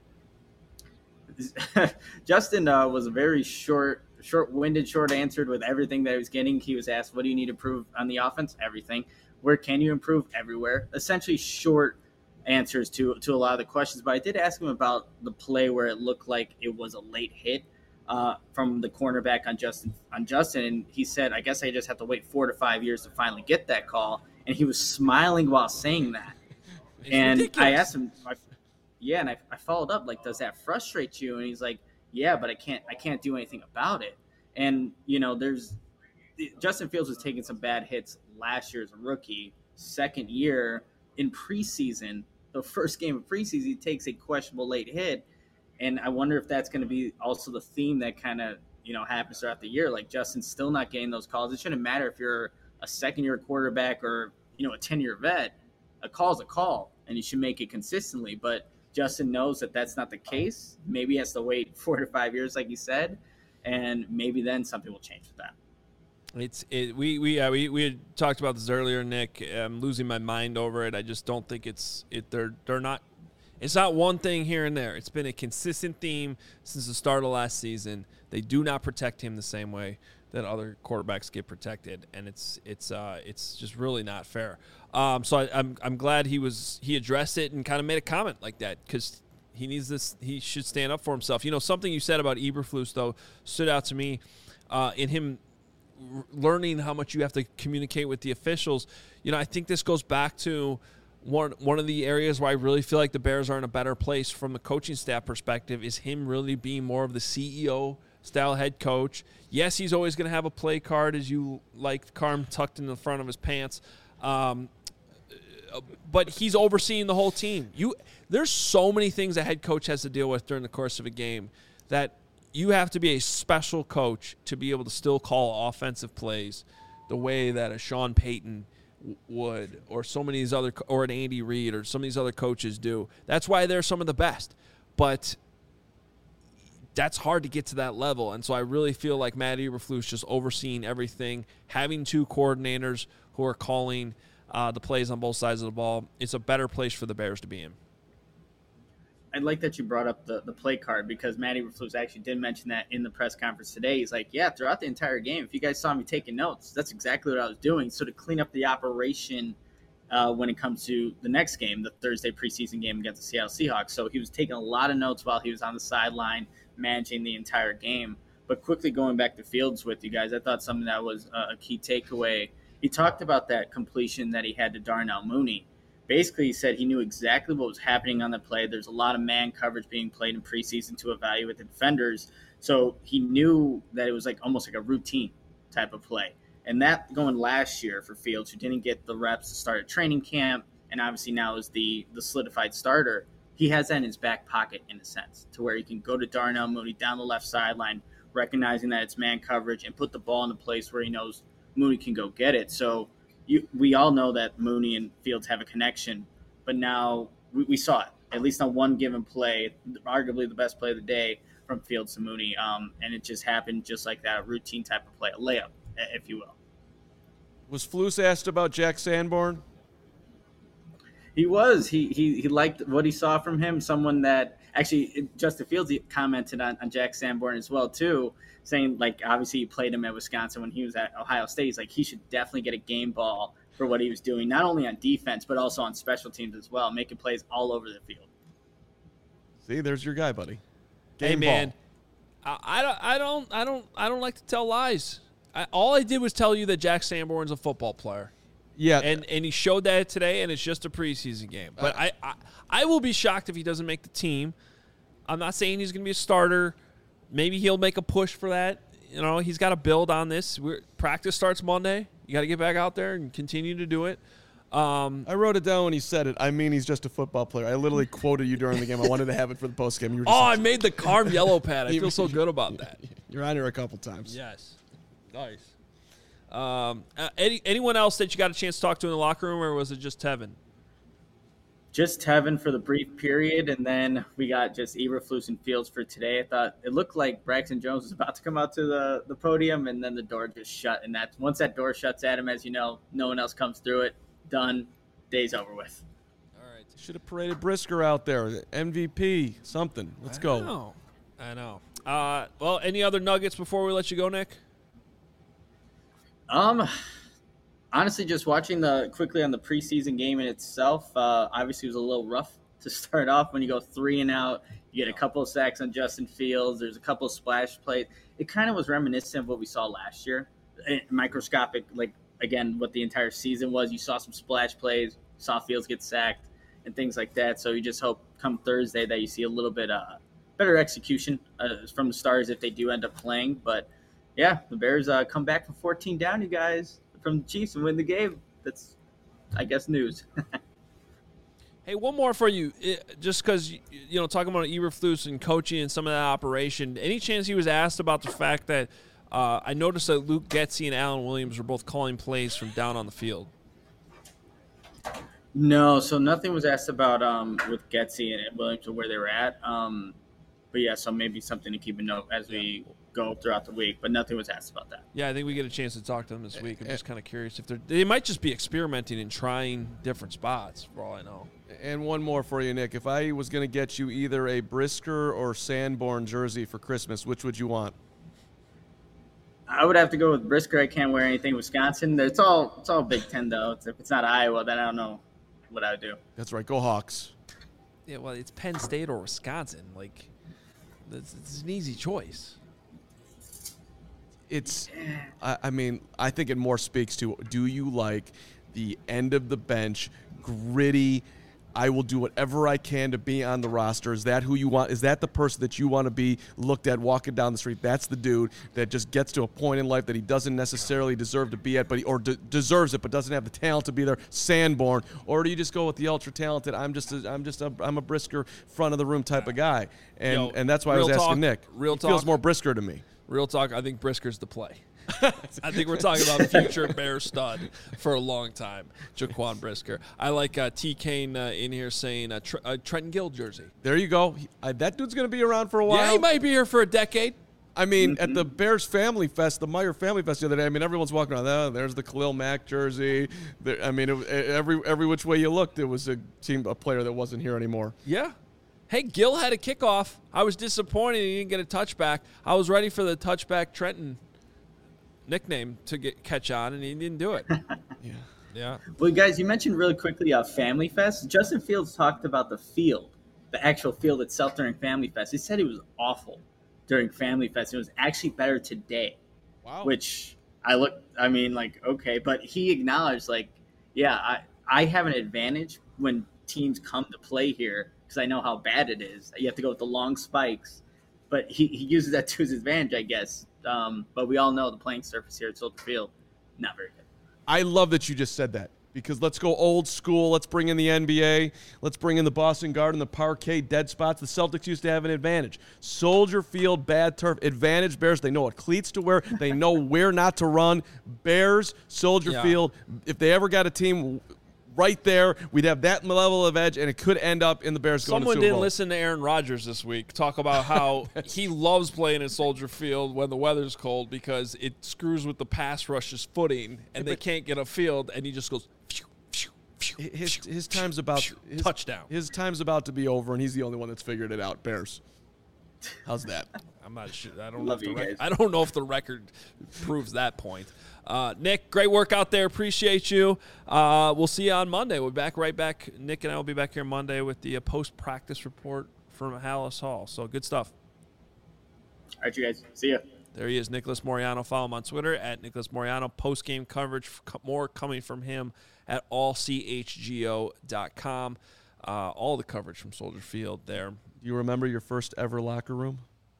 Justin was a very short-winded, short-answered with everything that he was getting. He was asked, what do you need to improve on the offense? Everything. Where can you improve? Everywhere. Essentially short answers to a lot of the questions. But I did ask him about the play where it looked like it was a late hit from the cornerback on Justin. And he said, I guess I just have to wait 4 to 5 years to finally get that call. And he was smiling while saying that. And ridiculous. I asked him, and I followed up, like, does that frustrate you? And he's like, yeah, but I can't do anything about it. And, Justin Fields was taking some bad hits last year as a rookie. Second year in preseason, the first game of preseason, he takes a questionable late hit. And I wonder if that's going to be also the theme that kind of, happens throughout the year. Like, Justin's still not getting those calls. It shouldn't matter if you're a second-year quarterback or, a 10-year vet. A call's a call, and you should make it consistently. But Justin knows that that's not the case. Maybe he has to wait 4 to 5 years, like you said. and maybe then something will change with that. We had talked about this earlier, Nick. I'm losing my mind over it. I just don't think they're not. It's not one thing here and there. It's been a consistent theme since the start of last season. They do not protect him the same way that other quarterbacks get protected, and it's just really not fair. So I'm glad he addressed it and kind of made a comment like that, because he needs this. He should stand up for himself. Something you said about Eberflus though stood out to me in him learning how much you have to communicate with the officials. I think this goes back to one of the areas where I really feel like the Bears are in a better place from the coaching staff perspective is him really being more of the CEO style head coach. Yes, he's always going to have a play card, as you like, Carm, tucked in the front of his pants. But he's overseeing the whole team. There's so many things a head coach has to deal with during the course of a game that you have to be a special coach to be able to still call offensive plays the way that a Sean Payton would, or so many of these other, or an Andy Reid, or some of these other coaches do. That's why they're some of the best. But that's hard to get to that level. And so I really feel like Matt Eberflus just overseeing everything, having two coordinators who are calling the plays on both sides of the ball. It's a better place for the Bears to be in. I like that you brought up the play card, because Matt Eberflus actually did mention that in the press conference today. He's like, yeah, throughout the entire game, if you guys saw me taking notes, that's exactly what I was doing. So to clean up the operation when it comes to the next game, the Thursday preseason game against the Seattle Seahawks. So he was taking a lot of notes while he was on the sideline managing the entire game. But quickly going back to Fields with you guys, I thought something that was a key takeaway. He talked about that completion that he had to Darnell Mooney. Basically, he said he knew exactly what was happening on the play. There's a lot of man coverage being played in preseason to evaluate the defenders. So he knew that it was almost like a routine type of play. And that going last year for Fields, who didn't get the reps to start at training camp, and obviously now is the solidified starter, he has that in his back pocket in a sense, to where he can go to Darnell Mooney down the left sideline, recognizing that it's man coverage, and put the ball in a place where he knows Mooney can go get it. So we all know that Mooney and Fields have a connection, but now we saw it, at least on one given play, arguably the best play of the day from Fields to Mooney, and it just happened just like that, a routine type of play, a layup, if you will. Was Flus asked about Jack Sanborn? He was. He liked what he saw from him, someone that actually Justin Fields commented on Jack Sanborn as well, too, saying, obviously he played him at Wisconsin when he was at Ohio State. He's like, he should definitely get a game ball for what he was doing, not only on defense, but also on special teams as well, making plays all over the field. See, there's your guy, buddy. Game man, ball. I don't like to tell lies. All I did was tell you that Jack Sanborn's a football player. Yeah, and he showed that today, and it's just a preseason game. But I will be shocked if he doesn't make the team. I'm not saying he's going to be a starter. Maybe he'll make a push for that. He's got to build on this. Practice starts Monday. You got to get back out there and continue to do it. I wrote it down when he said it. I mean, he's just a football player. I literally quoted you during the game. I wanted to have it for the post game. I made the Carm yellow pad. I feel so good about that. You're on here a couple times. Yes. Nice. Anyone else that you got a chance to talk to in the locker room, or was it just Tevin? Just Tevin for the brief period, and then we got just Eberflus and Fields for today. I thought it looked like Braxton Jones was about to come out to the podium, and then the door just shut. And once that door shuts at him, as you know, no one else comes through it. Done. Day's over with. All right. Should have paraded Brisker out there. MVP, something. Let's go. I know. Well, any other nuggets before we let you go, Nick? Honestly, just watching quickly on the preseason game in itself, obviously it was a little rough to start off. When you go 3 and out, you get a couple of sacks on Justin Fields. There's a couple of splash plays. It kind of was reminiscent of what we saw last year. Microscopic, again, what the entire season was. You saw some splash plays, saw Fields get sacked, and things like that. So you just hope come Thursday that you see a little bit better execution from the Stars if they do end up playing. But yeah, the Bears come back from 14 down, you guys, from the Chiefs and win the game. That's, I guess, news. Hey, one more for you. Just because, talking about Eberflus and coaching and some of that operation, any chance he was asked about the fact that I noticed that Luke Getsy and Alan Williams were both calling plays from down on the field? No, so nothing was asked about with Getsy and Williams or where they were at. But yeah, so maybe something to keep a note as we go throughout the week, but nothing was asked about that. Yeah, I think we get a chance to talk to them this week. I'm just kind of curious if they might just be experimenting and trying different spots, for all I know. And one more for you, Nick. If I was going to get you either a Brisker or Sanborn jersey for Christmas, which would you want? I would have to go with Brisker. I can't wear anything Wisconsin. It's all Big Ten, though. If it's not Iowa, then I don't know what I would do. That's right. Go Hawks. Yeah, well, it's Penn State or Wisconsin. Like, it's an easy choice. I mean, I think it more speaks to, do you like the end of the bench, gritty, I will do whatever I can to be on the roster? Is that who you want? Is that the person that you want to be looked at walking down the street? That's the dude that just gets to a point in life that he doesn't necessarily deserve to be at, but deserves it, but doesn't have the talent to be there. Sanborn, or do you just go with the ultra talented? I'm a Brisker front of the room type of guy, and that's why I was asking Nick. Real talk, feels more Brisker to me. Real talk. I think Brisker's the play. I think we're talking about future Bear stud for a long time, Jaquan Brisker. I like T. Kane in here saying Trenton Gill jersey. There you go. That dude's going to be around for a while. Yeah, he might be here for a decade. I mean, at the Bears Family Fest, the Meyer Family Fest the other day, I mean, everyone's walking around. Oh, there's the Khalil Mack jersey. I mean, every which way you looked, it was a player that wasn't here anymore. Yeah. Hey, Gill had a kickoff. I was disappointed he didn't get a touchback. I was ready for the touchback Trenton nickname to catch on, and he didn't do it. Yeah. Well, guys, you mentioned really quickly Family Fest. Justin Fields talked about the field, the actual field itself during Family Fest. He said it was awful during Family Fest. It was actually better today. Wow. Which okay. But he acknowledged, I have an advantage when teams come to play here because I know how bad it is. You have to go with the long spikes. But he uses that to his advantage, I guess. But we all know the playing surface here at Soldier Field, not very good. I love that you just said that, because let's go old school. Let's bring in the NBA. Let's bring in the Boston Garden, the parquet, dead spots. The Celtics used to have an advantage. Soldier Field, bad turf, advantage Bears. They know what cleats to wear. They know where not to run. Bears, Soldier Field. If they ever got a team right there, we'd have that level of edge, and it could end up in the Bears going to Super Bowl. Someone didn't listen to Aaron Rodgers this week talk about how he loves playing at Soldier Field when the weather's cold because it screws with the pass rush's footing, and they can't get a field, and he just goes phew, phew, phew, his time's about touchdown. His time's about to be over, and he's the only one that's figured it out. Bears. How's that? I'm not sure. I don't know if the record proves that point. Nick, great work out there. Appreciate you. We'll see you on Monday. We'll be right back. Nick and I will be back here Monday with the post-practice report from Halas Hall. So good stuff. All right, you guys. See ya. There he is, Nicholas Moreano. Follow him on Twitter at Nicholas Moreano. Post-game coverage, more coming from him at allchgo.com. All the coverage from Soldier Field there. Do you remember your first ever locker room?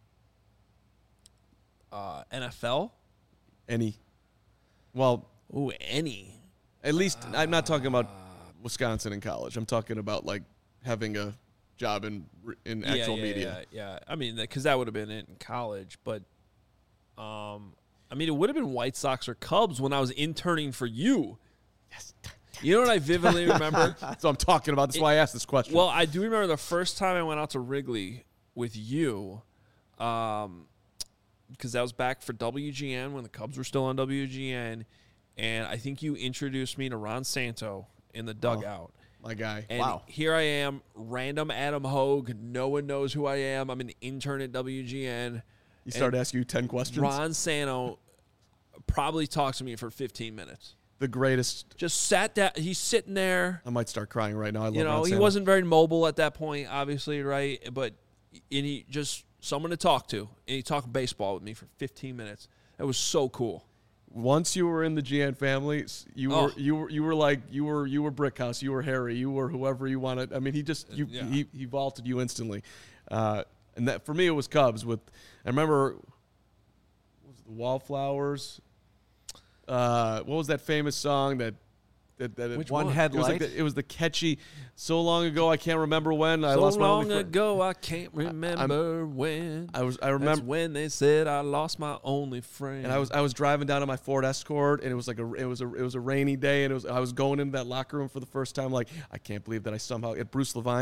NFL? Any. Well, any. At least I'm not talking about Wisconsin in college. I'm talking about like having a job in actual media. Yeah. I mean, because that would have been it in college, but it would have been White Sox or Cubs when I was interning for you. Yes. You know what I vividly remember? That's what I'm talking about. That's why I asked this question. Well, I do remember the first time I went out to Wrigley with you, because that was back for WGN when the Cubs were still on WGN, and I think you introduced me to Ron Santo in the dugout. My guy. And here I am, random Adam Hogue. No one knows who I am. I'm an intern at WGN. He started asking you 10 questions? Ron Santo probably talked to me for 15 minutes. The greatest. Just sat down. He's sitting there. I might start crying right now. I love Ron he Santo. wasn't very mobile at that point, obviously, right? But he just someone to talk to, and he talked baseball with me for 15 minutes. It was so cool. Once you were in the GN family, you were Brickhouse, you were Harry, you were whoever you wanted. I mean, he vaulted you instantly, and that for me it was Cubs. I remember, what was it, the Wallflowers. What was that famous song that Which one? Headlight? It was the catchy "So Long Ago I Can't Remember When I Lost My Only Friend." So long ago I can't remember when. I remember that's when they said I lost my only friend. And I was driving down on my Ford Escort, and it was a rainy day, and I was going into that locker room for the first time. Like, I can't believe that I somehow at Bruce Levine.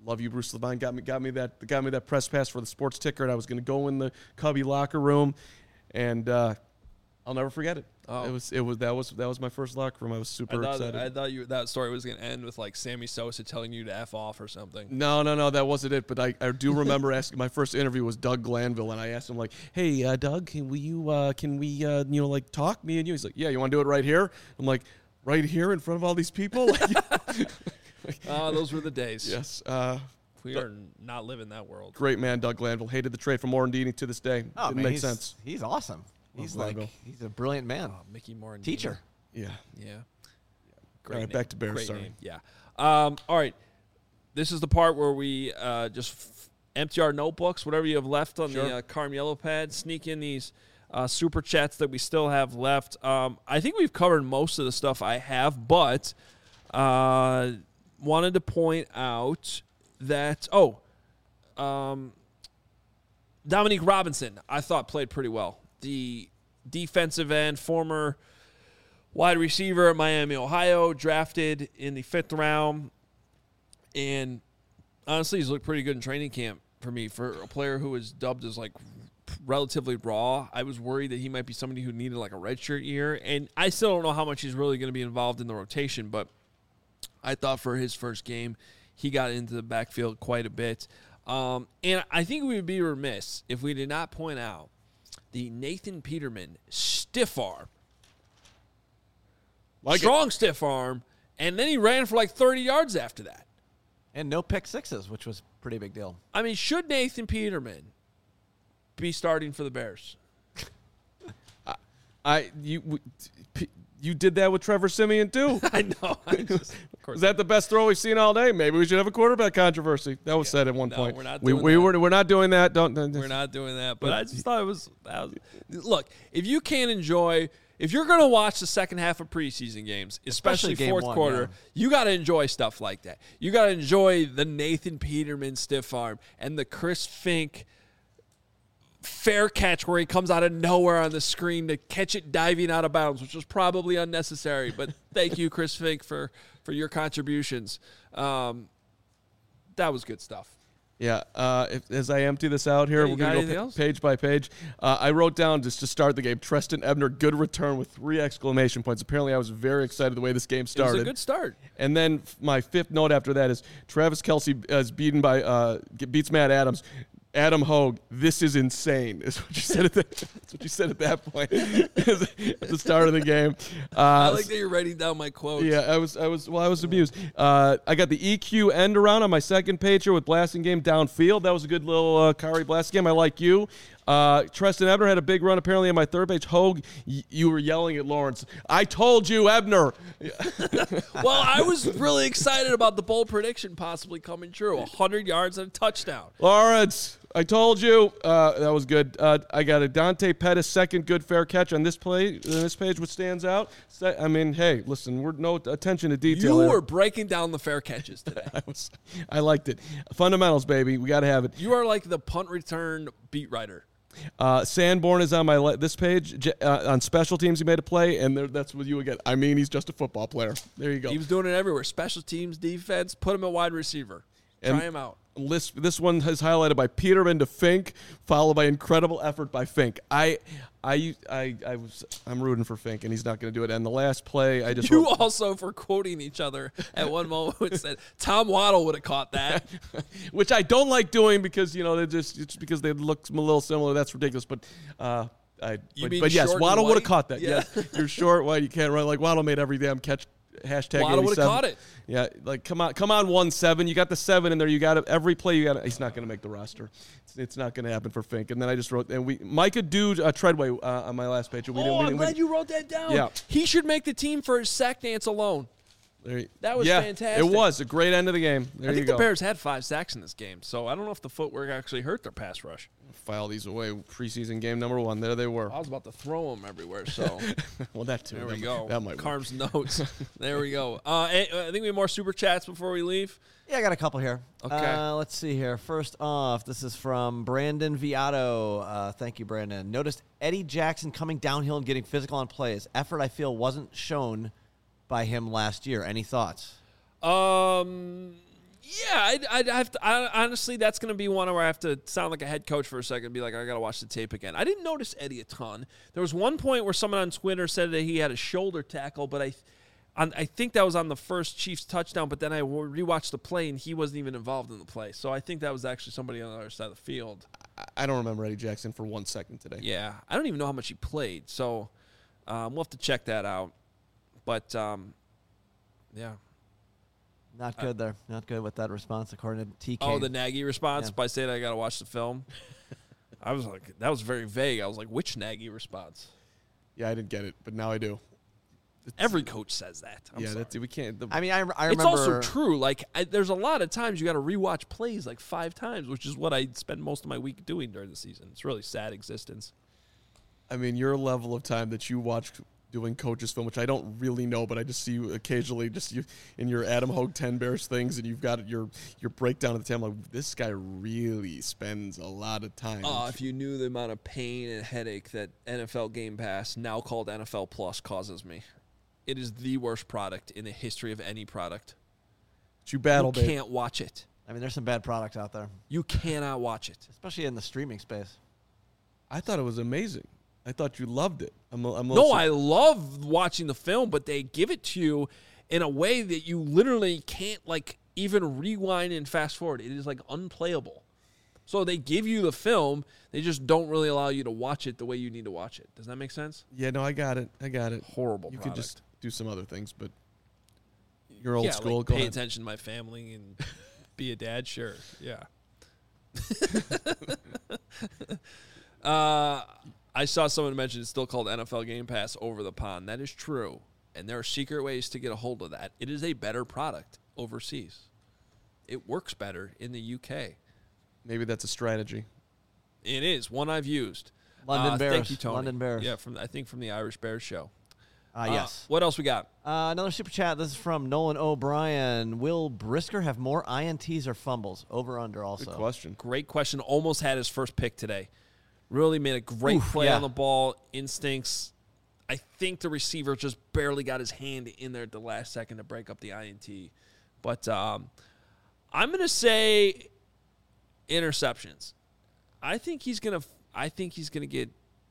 love you, Bruce Levine. Got me that press pass for the sports ticker, and I was going to go in the Cubby locker room, and I'll never forget it. Oh. That was my first locker room. I was super excited. I thought that story was going to end with like Sammy Sosa telling you to F off or something. No, that wasn't it. But I do remember asking. My first interview was Doug Glanville, and I asked him like, "Hey, Doug, can we like talk, me and you?" He's like, "Yeah, you want to do it right here?" I'm like, "Right here in front of all these people?" Those were the days. Yes. We are not living that world. Great man, Doug Glanville. Hated the trade for Morandini to this day. Didn't make sense. He's awesome. He's a brilliant man. Mickey Morandini. Teacher. Yeah. Great all right, name. back to Bears. Great Sorry. Name. Yeah. All right. This is the part where we just empty our notebooks, whatever you have left on the Carm Yellow Pad, sneak in these super chats that we still have left. I think we've covered most of the stuff I have, but wanted to point out that, Dominique Robinson, I thought played pretty well. The defensive end, former wide receiver at Miami, Ohio, drafted in the 5th round. And honestly, he's looked pretty good in training camp for me. For a player who was dubbed as like relatively raw, I was worried that he might be somebody who needed like a redshirt year. And I still don't know how much he's really going to be involved in the rotation, but I thought for his first game, he got into the backfield quite a bit. And I think we would be remiss if we did not point out the Nathan Peterman stiff arm. Strong stiff arm, and then he ran for like 30 yards after that. And no pick sixes, which was a pretty big deal. I mean, should Nathan Peterman be starting for the Bears? You did that with Trevor Siemian too. I know. Is that the best throw we've seen all day? Maybe we should have a quarterback controversy. That was said at one point. We're not doing that. We're not doing that. We're not doing that. But I just thought it was look, if you can't enjoy, if you're going to watch the second half of preseason games, especially fourth quarter, you got to enjoy stuff like that. You got to enjoy the Nathan Peterman stiff arm and the Chris Fink fair catch where he comes out of nowhere on the screen to catch it diving out of bounds, which was probably unnecessary. But thank you, Chris Fink, for your contributions. That was good stuff. Yeah. As I empty this out here, we're going to go page by page. I wrote down just to start the game, Treston Ebner, good return with 3 exclamation points. Apparently, I was very excited the way this game started. It was a good start. And then my 5th note after that is Travis Kelce is beats Matt Adams. Adam Hogue, this is insane, is what you said at that point at the start of the game. I like that you're writing down my quotes. Yeah, I was amused. I got the EQ end around on my second page here with blasting game downfield. That was a good little Kari blasting game. I like you. Treston Ebner had a big run apparently on my third page. Hogue, you were yelling at Lawrence. I told you, Ebner. Well, I was really excited about the bold prediction possibly coming true. 100 yards and a touchdown. Lawrence, I told you. That was good. I got a Dante Pettis second good fair catch on this page, which stands out. I mean, hey, listen, we're no attention to detail. You were breaking down the fair catches today. I liked it. Fundamentals, baby. We got to have it. You are like the punt return beat writer. Sanborn is on this page. On special teams, he made a play, and that's what you would get. I mean, he's just a football player. There you go. He was doing it everywhere. Special teams, defense, put him at wide receiver. Try him out. This one is highlighted by Peterman to Fink, followed by incredible effort by Fink. I'm rooting for Fink, and he's not going to do it. And the last play, I just also for quoting each other at one moment said Tom Waddle would have caught that, which I don't like doing because it's because they look a little similar. That's ridiculous, but. But yes, Waddle would have caught that. Yeah. Yes, you're short, white, you can't run. Like Waddle made every damn catch. Hashtag Waddle would have caught it. Yeah, like come on 1-7. You got the 7 in there. You got it. Every play you got. He's not going to make the roster. It's not going to happen for Fink. And then I just wrote Micah Treadway on my last page. I'm glad you wrote that down. Yeah, he should make the team for his sack dance alone. That was fantastic. It was a great end of the game. I think the Bears had 5 sacks in this game, so I don't know if the footwork actually hurt their pass rush. File these away. Preseason game number 1. There they were. I was about to throw them everywhere. So, well, that too. There we go. That might Carm's notes. There we go. I think we have more super chats before we leave. Yeah, I got a couple here. Okay. Let's see here. First off, this is from Brandon Viato. Thank you, Brandon. Noticed Eddie Jackson coming downhill and getting physical on plays. Effort, I feel, wasn't shown by him last year. Any thoughts? Yeah, I'd have to. Honestly, that's going to be one where I have to sound like a head coach for a second and be like, I got to watch the tape again. I didn't notice Eddie a ton. There was one point where someone on Twitter said that he had a shoulder tackle, but I think that was on the first Chiefs touchdown, but then I rewatched the play, and he wasn't even involved in the play. So I think that was actually somebody on the other side of the field. I don't remember Eddie Jackson for 1 second today. Yeah, I don't even know how much he played, so we'll have to check that out. But, yeah. Not good there. Not good with that response, according to TK. Oh, the Nagy response by saying I got to watch the film? I was like, that was very vague. I was like, which Nagy response? Yeah, I didn't get it, but now I do. Every coach says that. We can't. I remember. It's also true. Like, there's a lot of times you got to rewatch plays like 5 times, which is what I spend most of my week doing during the season. It's really sad existence. I mean, your level of time that you watch doing coaches film, which I don't really know, but I just see you occasionally, just you in your Adam Hogue 10 Bears things, and you've got your breakdown of the time. Like, this guy really spends a lot of time. Oh, if you knew the amount of pain and headache that NFL Game Pass, now called NFL Plus, causes me. It is the worst product in the history of any product. You battle, You can't watch it. I mean, there's some bad product out there. You cannot watch it. Especially in the streaming space. I thought it was amazing. I thought you loved it. I love watching the film, but they give it to you in a way that you literally can't, like, even rewind and fast forward. It is, like, unplayable. So they give you the film. They just don't really allow you to watch it the way you need to watch it. Does that make sense? Yeah, no, I got it. Horrible You product. could just do some other things, but you're old school. Like Go pay ahead. attention to my family and be a dad. Sure, yeah. I saw someone mention it's still called NFL Game Pass over the pond. That is true, and there are secret ways to get a hold of that. It is a better product overseas. It works better in the UK. Maybe that's a strategy. It is one I've used. London Bears. Thank you, Tony. London Bears. Yeah, I think from the Irish Bears show. Yes. What else we got? Another super chat. This is from Nolan O'Brien. Will Brisker have more INTs or fumbles? Over under also. Good question. Great question. Almost had his first pick today. Really made a great play on the ball. Instincts. I think the receiver just barely got his hand in there at the last second to break up the INT. But I'm going to say interceptions. I think he's going to get,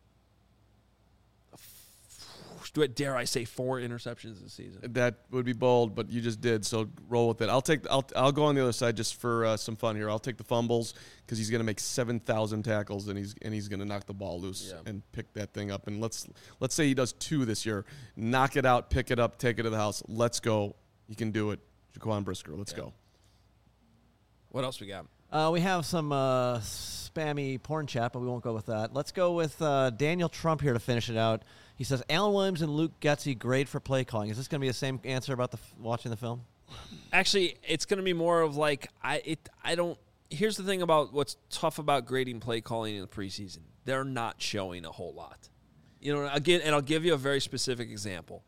dare I say, 4 interceptions this season. That would be bold, but you just did, so roll with it. I'll go on the other side just for some fun here. I'll take the fumbles because he's going to make 7,000 tackles and he's going to knock the ball loose and pick that thing up. And let's say he does 2 this year. Knock it out, pick it up, take it to the house. Let's go. He can do it. Jaquan Brisker. Let's go. What else we got? We have some spammy porn chat, but we won't go with that. Let's go with Daniel Trump here to finish it out. He says, Alan Williams and Luke Getsy, great for play calling. Is this going to be the same answer about watching the film? Actually, it's going to be more of like, here's the thing about what's tough about grading play calling in the preseason. They're not showing a whole lot. You know, again, and I'll give you a very specific example.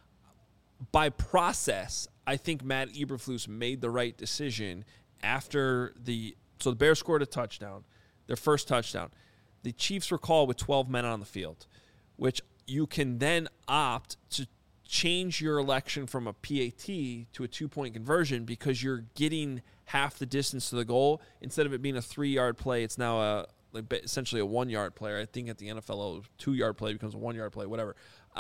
By process, I think Matt Eberflus made the right decision after the Bears scored a touchdown, their first touchdown. The Chiefs were called with 12 men on the field, which you can then opt to change your election from a PAT to a 2-point conversion because you're getting half the distance to the goal. Instead of it being a 3-yard play, it's now essentially a 1-yard play. I think at the NFL, a 2-yard play becomes a 1-yard play, whatever.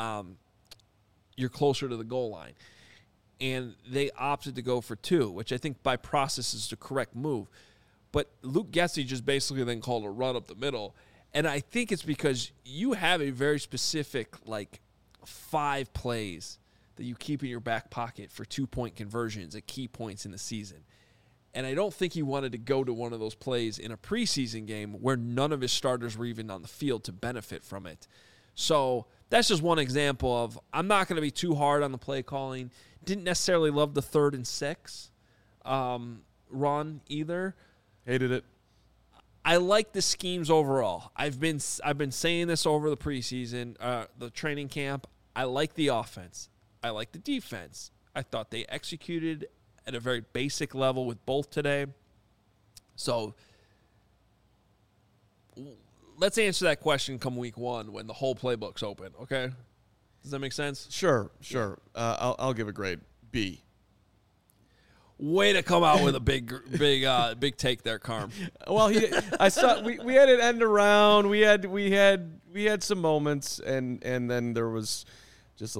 You're closer to the goal line. And they opted to go for 2, which I think by process is the correct move. But Luke Getsy just basically then called a run up the middle. And I think it's because you have a very specific, 5 plays that you keep in your back pocket for 2-point conversions at key points in the season. And I don't think he wanted to go to one of those plays in a preseason game where none of his starters were even on the field to benefit from it. So that's just one example of I'm not going to be too hard on the play calling. Didn't necessarily love the 3rd and 6 run either. Hated it. I like the schemes overall. I've been saying this over the preseason, the training camp. I like the offense. I like the defense. I thought they executed at a very basic level with both today. So let's answer that question come week 1 when the whole playbook's open, okay? Does that make sense? Sure. I'll give a grade B. Way to come out with a big take there, Carm. Well, I saw we had it end around. We had some moments, and then there was just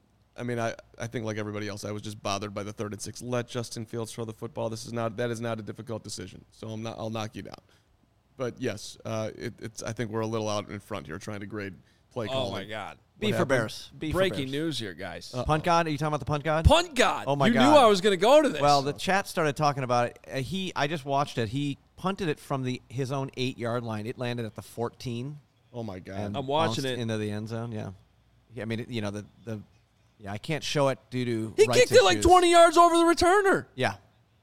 I think like everybody else, I was just bothered by the 3rd and 6. Let Justin Fields throw the football. That is not a difficult decision. So I'll knock you down. But yes, I think we're a little out in front here trying to grade play calling. Oh my God. B for Bears. Breaking news here, guys. Punt God? Are you talking about the punt God? Punt God. Oh my God. God. You knew I was going to go to this. Well, the chat started talking about it. I just watched it. He punted it from his own 8-yard line. It landed at the 14. Oh my God. I'm watching it into the end zone. Yeah. I mean, I can't show it due to he kicked it like 20 yards over the returner. Yeah.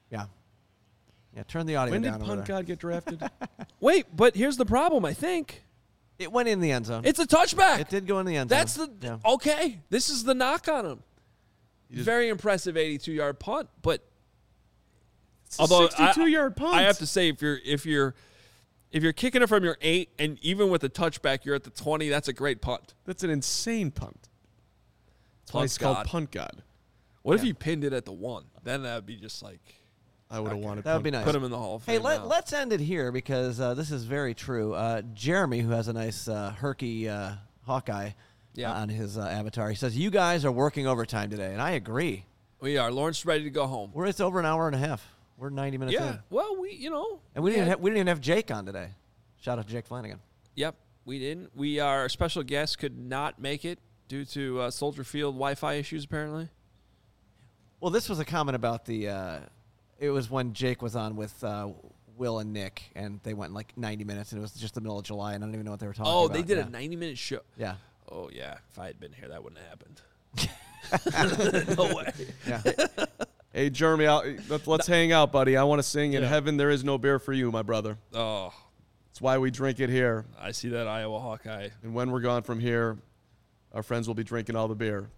Turn the audio down. When did Punt God get drafted? Wait, but here's the problem, I think. It went in the end zone. It's a touchback. It did go in the end zone. That's okay. This is the knock on him. Very impressive 82-yard punt, but although 62-yard punt. I have to say if you're kicking it from your 8 and even with the touchback you're at the 20, that's a great punt. That's an insane punt. That's why it's called Punt God. What if he pinned it at the 1? Then that would be just like I would have wanted. That would be nice. Put him in the Hall of Fame. Hey, let's end it here because this is very true. Jeremy, who has a nice herky Hawkeye on his avatar, he says, you guys are working overtime today, and I agree. We are. Lawrence ready to go home. It's over an hour and a half. We're 90 minutes in. Yeah. Well, and we didn't even have Jake on today. Shout out to Jake Flanagan. Yep, we didn't. Our special guest could not make it due to Soldier Field Wi-Fi issues, apparently. Well, this was a comment about it was when Jake was on with Will and Nick, and they went like 90 minutes, and it was just the middle of July, and I don't even know what they were talking about. Oh, they did a 90-minute show. Yeah. Oh, yeah. If I had been here, that wouldn't have happened. No way. Yeah. Hey, Jeremy, let's hang out, buddy. I want to sing In Heaven There Is No Beer for You, my brother. Oh. That's why we drink it here. I see that Iowa Hawkeye. And when we're gone from here, our friends will be drinking all the beer.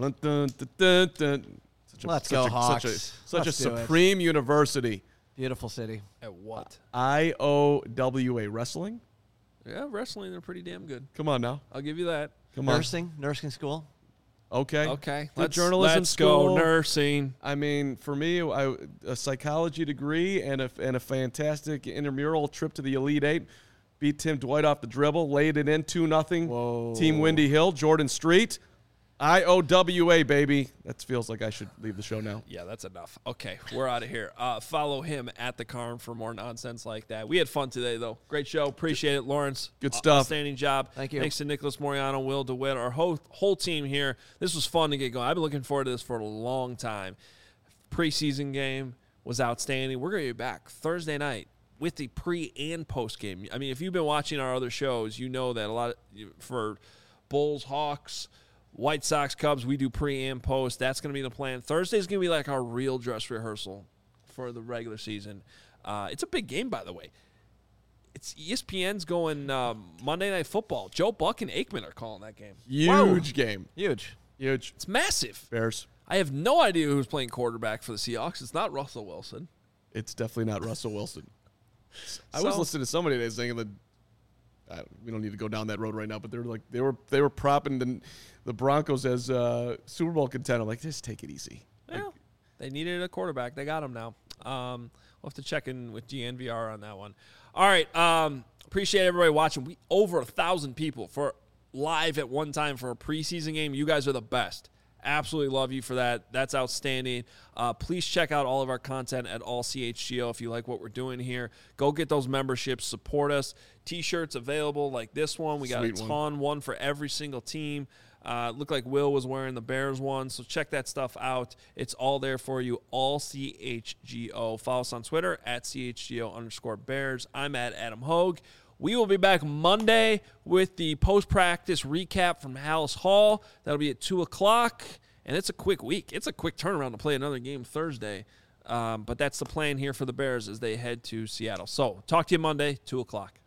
Let's go, Hawks. Such a supreme university. Beautiful city. At what? IOWA Wrestling? Yeah, wrestling, they're pretty damn good. Come on now. I'll give you that. Come on. Nursing school. Okay. Let's journalism go school. Nursing. I mean, for me, a psychology degree and a fantastic intramural trip to the Elite Eight. Beat Tim Dwight off the dribble, laid it in 2-0. Whoa. Team Windy Hill, Jordan Street. IOWA, baby. That feels like I should leave the show now. Yeah, that's enough. Okay, we're out of here. Follow him at the Carm for more nonsense like that. We had fun today, though. Great show. Appreciate it, Lawrence. Good stuff. Outstanding job. Thank you. Thanks to Nicholas Moriano, Will DeWitt, our whole team here. This was fun to get going. I've been looking forward to this for a long time. Preseason game was outstanding. We're going to be back Thursday night with the pre- and post-game. I mean, if you've been watching our other shows, you know that for Bulls, Hawks, White Sox, Cubs, we do pre and post. That's going to be the plan. Thursday's going to be like our real dress rehearsal for the regular season. It's a big game, by the way. It's ESPN's going Monday Night Football. Joe Buck and Aikman are calling that game. Huge game. Huge. It's massive. Bears. I have no idea who's playing quarterback for the Seahawks. It's not Russell Wilson. It's definitely not Russell Wilson. I was listening to somebody today saying that we don't need to go down that road right now, but they were propping the Broncos as Super Bowl contender. I'm like, just take it easy. Well, they needed a quarterback. They got him now. We'll have to check in with DNVR on that one. All right. Appreciate everybody watching. Over 1,000 people for live at one time for a preseason game. You guys are the best. Absolutely love you for that. That's outstanding. Please check out all of our content at AllCHGO if you like what we're doing here. Go get those memberships. Support us. T-shirts available like this one. We got a ton, one for every single team. Looked like Will was wearing the Bears one, so check that stuff out. It's all there for you, AllCHGO. Follow us on Twitter at @CHGO_Bears. I'm at Adam Hogue. We will be back Monday with the post-practice recap from Hallis Hall. That'll be at 2 o'clock, and it's a quick week. It's a quick turnaround to play another game Thursday, but that's the plan here for the Bears as they head to Seattle. So talk to you Monday, 2 o'clock.